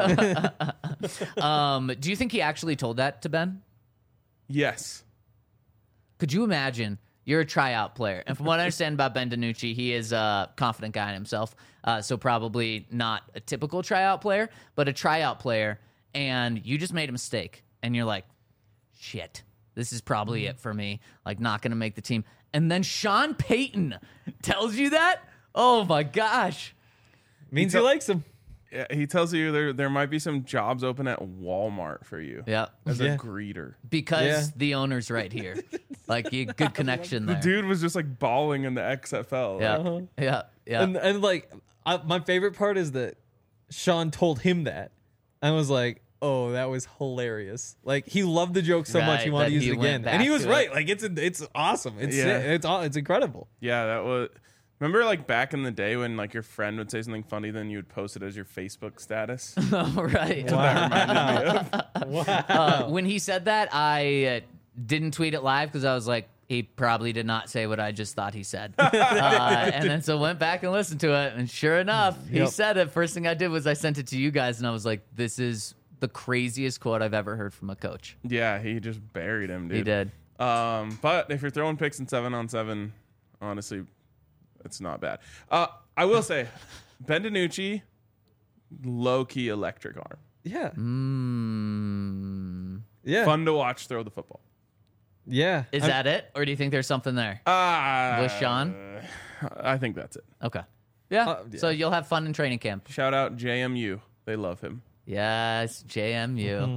Do you think he actually told that to Ben? Yes. Could you imagine? You're a tryout player. And from what I understand about Ben DiNucci, he is a confident guy in himself. So probably not a typical tryout player, but a tryout player. And you just made a mistake. And you're like, shit, this is probably it for me. Like, not going to make the team. And then Sean Payton tells you that? Oh, my gosh. Means he likes him. Yeah, he tells you there might be some jobs open at Walmart for you. Yeah. As Yeah. a greeter. Because Yeah. the owner's right here. Like, you good connection there. The dude was just like bawling in the XFL. Yeah. Yeah. And like, my favorite part is that Sean told him that. I was like, oh, that was hilarious. Like, he loved the joke so much he Right, wanted that to use he it went again. back And he was to right. it. Like, it's awesome. It's Yeah. it's incredible. Yeah, that was. Remember, like back in the day when like your friend would say something funny, then you would post it as your Facebook status. Oh, right. That reminded me of. When he said that, I didn't tweet it live because I was like, he probably did not say what I just thought he said. And then so went back and listened to it, and sure enough, he Yep. said it. First thing I did was I sent it to you guys, and I was like, this is the craziest quote I've ever heard from a coach. Yeah, he just buried him, dude. He did. But if you're throwing picks in 7-on-7, honestly, it's not bad. I will say, Ben DiNucci, low key electric arm. Yeah. Mm. Yeah. Fun to watch throw the football. Yeah. Is that it? Or do you think there's something there? With Sean? I think that's it. Okay. Yeah. yeah. So you'll have fun in training camp. Shout out JMU. They love him. Yes, JMU.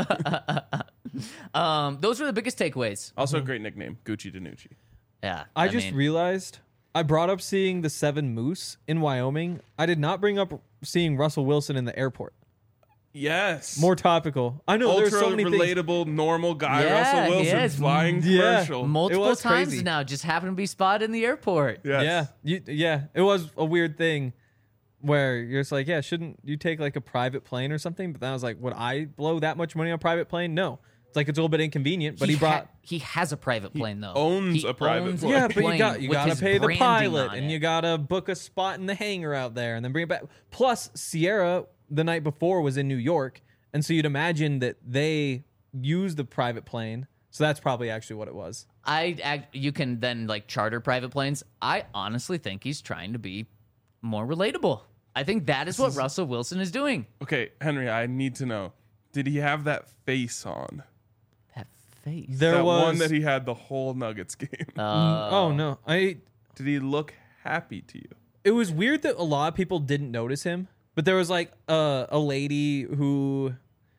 Mm-hmm. Those were the biggest takeaways. Also a great nickname, Gucci DiNucci. Yeah. I just mean, realized I brought up seeing the 7 moose in Wyoming. I did not bring up seeing Russell Wilson in the airport. Yes. More topical. I know ultra there's so many things. relatable, normal guy, Yeah, Russell he Wilson is. flying Yeah. commercial. multiple was times crazy. now just happened to be spotted in the airport. Yes. Yeah. It was a weird thing where you're just like, yeah, shouldn't you take like a private plane or something? But then I was like, would I blow that much money on a private plane? No. It's like it's a little bit inconvenient, but he brought. He has a private plane though. owns He a private owns plane. a Yeah, but you plane got with to his pay the branding pilot, on and it. you got to book a spot in the hangar out there, and then bring it back. Plus, Sierra the night before was in New York, and so you'd imagine that they used the private plane. So that's probably actually what it was. You can then like charter private planes. I honestly think he's trying to be more relatable. I think that is what Russell Wilson is doing. Okay, Henry, I need to know. Did he have that face on? That face. There That was one that he had the whole Nuggets game. oh no, Did he look happy to you? it was weird that a lot of people didn't notice him, but there was like a lady who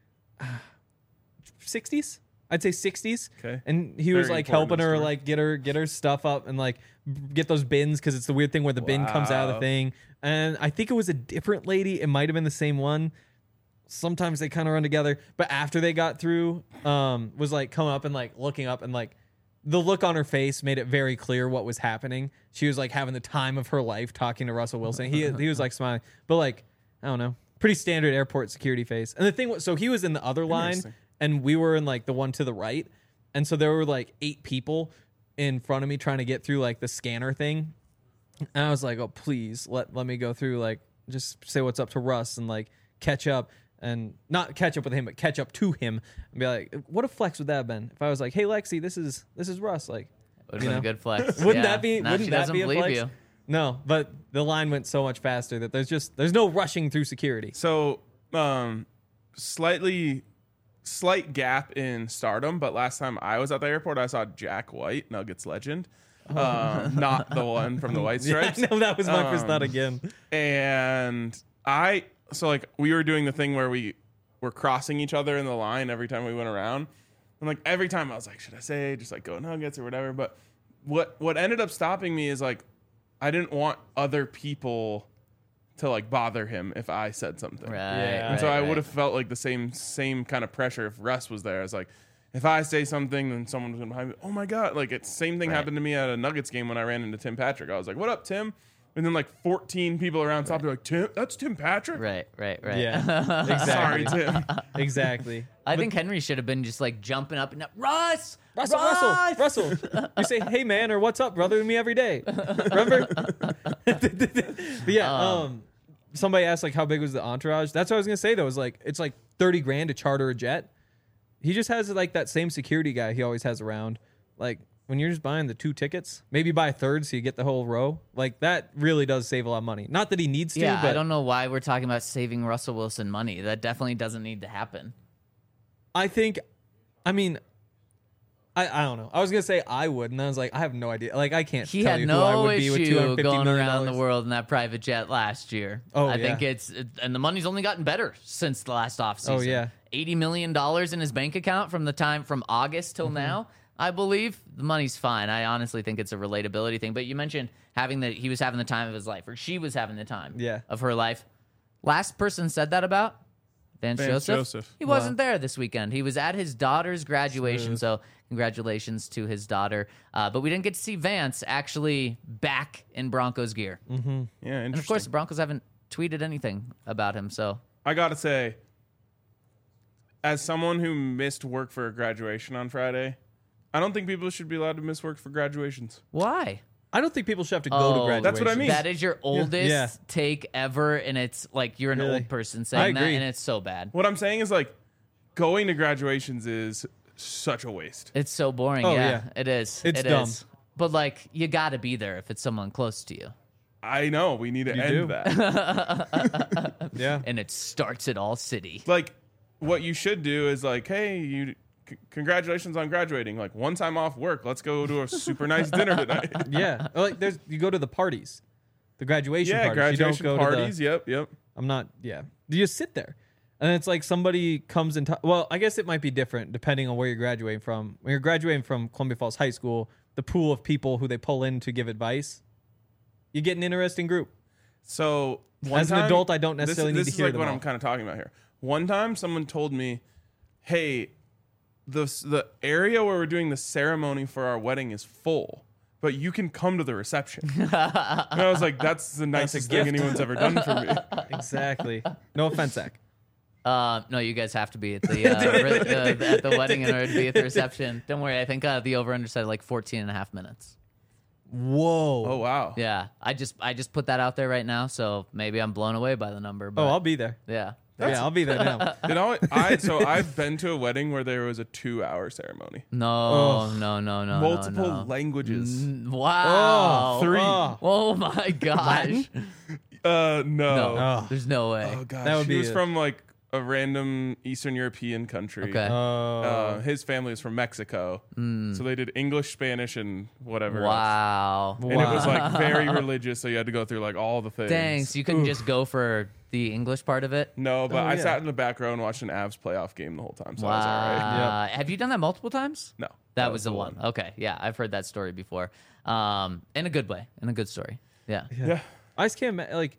60s, I'd say 60s, Okay. and he was Very like important helping her story. like get her stuff up and like get those bins because it's the weird thing where the bin comes out of the Wow. thing. And I think it was a different lady. It might have been the same one. Sometimes they kind of run together, but after they got through, was like coming up and like looking up and like the look on her face made it very clear what was happening. She was like having the time of her life talking to Russell Wilson. He was like smiling, but like I don't know, pretty standard airport security face. And the thing was, so he was in the other line, Interesting. and we were in like the one to the right, and so there were like 8 people in front of me trying to get through like the scanner thing. And I was like, oh, please let me go through, like, just say what's up to Russ and like catch up, and not catch up with him, but catch up to him and be like, what a flex would that have been if I was like, hey, Lexi, this is Russ. Like, Would have you been know? a good flex. Wouldn't Yeah. that be, Now wouldn't she that doesn't be a believe flex? you. No, but the line went so much faster that there's no rushing through security. So, slightly slight gap in stardom, but last time I was at the airport, I saw Jack White, Nuggets legend. Not the one from the White Stripes. Yeah, I know, that was my first thought again. And we were doing the thing where we were crossing each other in the line every time we went around. And like every time I was like, should I say just like go Nuggets or whatever? But what ended up stopping me is like I didn't want other people to like bother him if I said something. Right. And so I would have felt like the same kind of pressure if Russ was there. It's like, if I say something, then someone was going behind me. Oh my God. Like it's same thing happened to me at a Nuggets game when I ran into Tim Patrick. I was like, what up, Tim? And then like 14 people around stopped. They're like, Tim, that's Tim Patrick? Right. Yeah, Sorry, exactly. Tim. Exactly. I think Henry should have been just like jumping up and up. Russell. You say, hey man, or what's up, brother, to me every day. Remember? But yeah, somebody asked like how big was the entourage. That's what I was gonna say though. Is like it's like $30,000 to charter a jet. He just has like that same security guy he always has around. Like when you're just buying the 2 tickets, maybe buy a third so you get the whole row. Like that really does save a lot of money. Not that he needs to. Yeah, but I don't know why we're talking about saving Russell Wilson money. That definitely doesn't need to happen. I think, I mean, I don't know. I was gonna say I would, and I was like, I have no idea. Like I can't. He tell had you who I no would be with issue $250 going million. around the world in that private jet last year. Oh, I yeah. think and the money's only gotten better since the last offseason. Oh, yeah. $80 million in his bank account from August till now. I believe the money's fine. I honestly think it's a relatability thing. But you mentioned he was having the time of his life, or she was having the time of her life. Last person said that about Vance Joseph. He wasn't there this weekend. He was at his daughter's graduation, so congratulations to his daughter. But we didn't get to see Vance actually back in Broncos gear. Yeah, interesting. And of course, the Broncos haven't tweeted anything about him. So I gotta say, as someone who missed work for a graduation on Friday, I don't think people should be allowed to miss work for graduations. why? I don't think people should have to go to graduation. That's what I mean. That is your oldest Yeah. take ever, and it's like you're an Really? old person I saying that, agree. and it's so bad. What I'm saying is like going to graduations is such a waste. It's so boring. Oh, yeah, yeah. it is. It's It dumb. is. But like, you got to be there if it's someone close to you, I know we need to You end do. that. Yeah. and it starts at All City. Like what you should do is like, hey, congratulations on graduating. Like one time off work, let's go to a super nice dinner tonight. Yeah. Like you go to the parties, the graduation Yeah, parties. graduation you don't go parties. To Yep. I'm not. Yeah. You just sit there, and it's like somebody comes and. Well, I guess it might be different depending on where you're graduating from. When you're graduating from Columbia Falls High School, the pool of people who they pull in to give advice, you get an interesting group. So As an adult, I don't necessarily need this to is hear like them what all. I'm kind of talking about here. One time, someone told me, "Hey, the area where we're doing the ceremony for our wedding is full, but you can come to the reception." And I was like, "That's the nicest thing gift. anyone's ever done for me." Exactly. No offense, Zach. No, you guys have to be at the at the wedding in order to be at the reception. Don't worry. I think the over-under said like 14 and a half minutes. Whoa. Oh wow. Yeah, I just put that out there right now, so maybe I'm blown away by the number. But Oh, I'll be there. yeah. Yeah, I'll be there now. So I've been to a wedding where there was a 2-hour ceremony, No, no, multiple no. languages. Wow. 3. Oh my gosh. No. No, Oh. there's no way. Oh gosh, That would he be was a- from like a random Eastern European country. Okay. His family is from Mexico, so they did English, Spanish, and whatever. else. Wow. And it was like very religious, so you had to go through like all the things. Dang, so you couldn't just go for the English part of it? No, but I yeah. sat in the back row and watched an Avs playoff game the whole time, so I was all Wow. right. Have you done that multiple times? No, That was the one. Okay, yeah, I've heard that story before. In a good way, in a good story. Yeah. Yeah. I just can't like.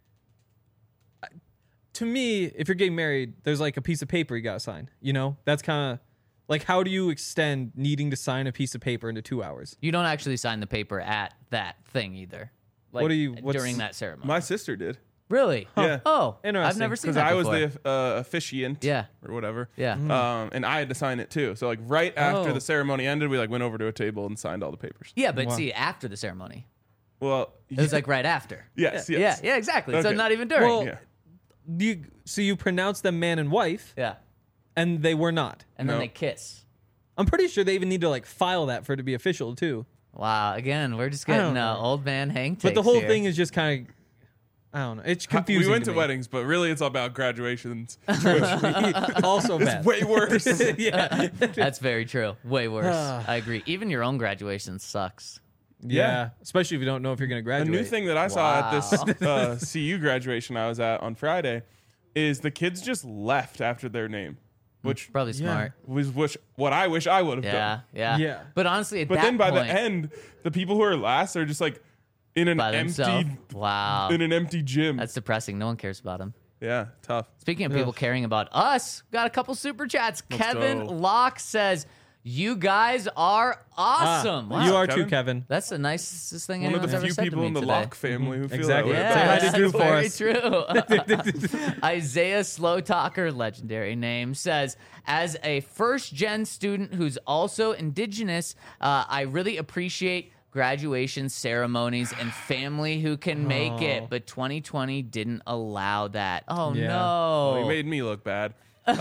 To me, if you're getting married, there's like a piece of paper you gotta sign. You know, that's kind of like how do you extend needing to sign a piece of paper into 2 hours? You don't actually sign the paper at that thing either. Like, What do you- what's- during that ceremony? My sister did Really? Yeah. Oh, I've Interesting. never seen because that I was before. the officiant, Yeah. or whatever. Yeah. And I had to sign it too. So like right after Oh. the ceremony ended, we like went over to a table and signed all the papers. Yeah, but Wow. see, after the ceremony, Well, it was like right after. yes, Yeah, yes. yeah, exactly. So Okay. not even during. Well, Yeah. So you pronounce them man and wife, yeah, and they were not. and then No. they kiss. I'm pretty sure they even need to like file that for it to be official too. Wow. Again, we're just I don't getting know. old man Hank. But the takes whole here. thing is just kind of I don't know. It's confusing. We went to me. weddings, but really it's about graduations. Also bad. Way worse. Yeah. That's very true. Way worse. I agree. Even your own graduation sucks. Yeah. Especially if you don't know if you're going to A graduate. new thing that I saw at this CU graduation I was at on Friday is the kids just left after their name, which Probably smart. was what I wish I would have done. Yeah. Yeah. But honestly, at But that then by point, the end, the people who are last are just like in an by themselves. empty Wow. in an empty gym. That's depressing. No one cares about them. Yeah, tough. Speaking of people caring about us, got a couple super chats. Let's Kevin go. Locke says, "You guys are awesome." Wow. You are Kevin? too, Kevin. That's the nicest thing One of anyone's the ever few said people to me in the today. Locke family who feel Exactly. that way. Yeah, Say hi to Drew that's for very true. Isaiah Slow Talker, legendary name, says, as a first-gen student who's also indigenous, I really appreciate graduation ceremonies and family who can make it, but 2020 didn't allow that. Oh, Yeah. no. Well, he made me look bad.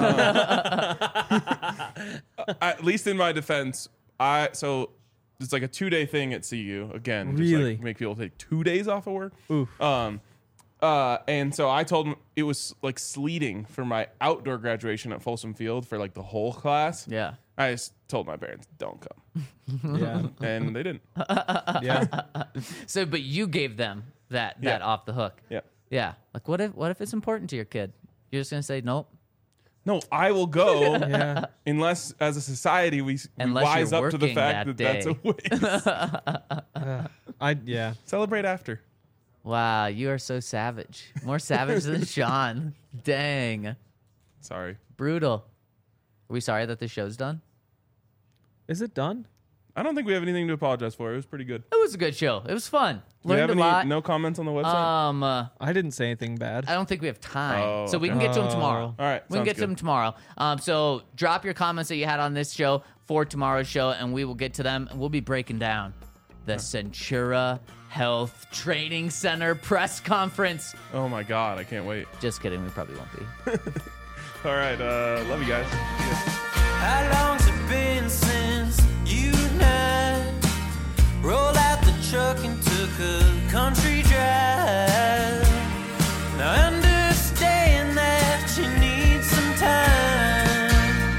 At least in my defense, so it's like a 2-day thing at CU again. Just Really? like make people take 2 days off of work. Oof. And so I told him it was like sleeting for my outdoor graduation at Folsom Field for like the whole class. Yeah. I just told my parents, don't come. Yeah. And they didn't. Yeah. So, but you gave them that Yeah. off the hook. Yeah. Yeah. Like, what if it's important to your kid? You're just gonna say nope. No, I will go Yeah. unless, as a society, we Unless wise you're up to the working fact that that that's a waste. Yeah. Celebrate after. Wow, you are so savage. More savage than Sean. Dang. Sorry. Brutal. Are we sorry that the show's done? Is it done? I don't think we have anything to apologize for. It was pretty good. It was a good show. It was fun. Do we have Learned a lot. no comments on the website? I didn't say anything bad. I don't think we have time. Oh, so we can okay. get to them tomorrow. All right, We can sounds get to good. them tomorrow. So drop your comments that you had on this show for tomorrow's show, and we will get to them. And we'll be breaking down the Centura Health Training Center press conference. Oh my God, I can't wait. Just kidding. We probably won't be. All right, love you guys. How long's it been since you and I rolled out the truck and took a country drive? Now I understand that you need some time.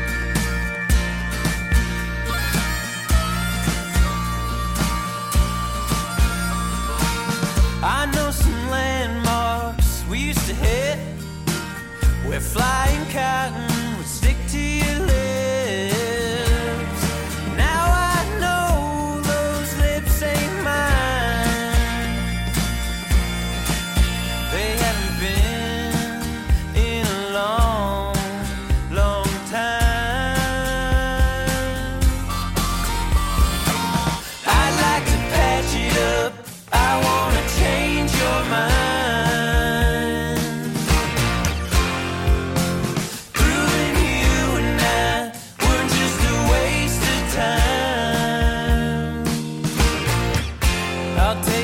I know some landmarks we used to hit where flying cotton would stick to your lips. Now I know those lips ain't mine. They haven't been in a long, long time. I'd like to patch it up. I wanna change your mind. Proving you and I were just a waste of time. I'll take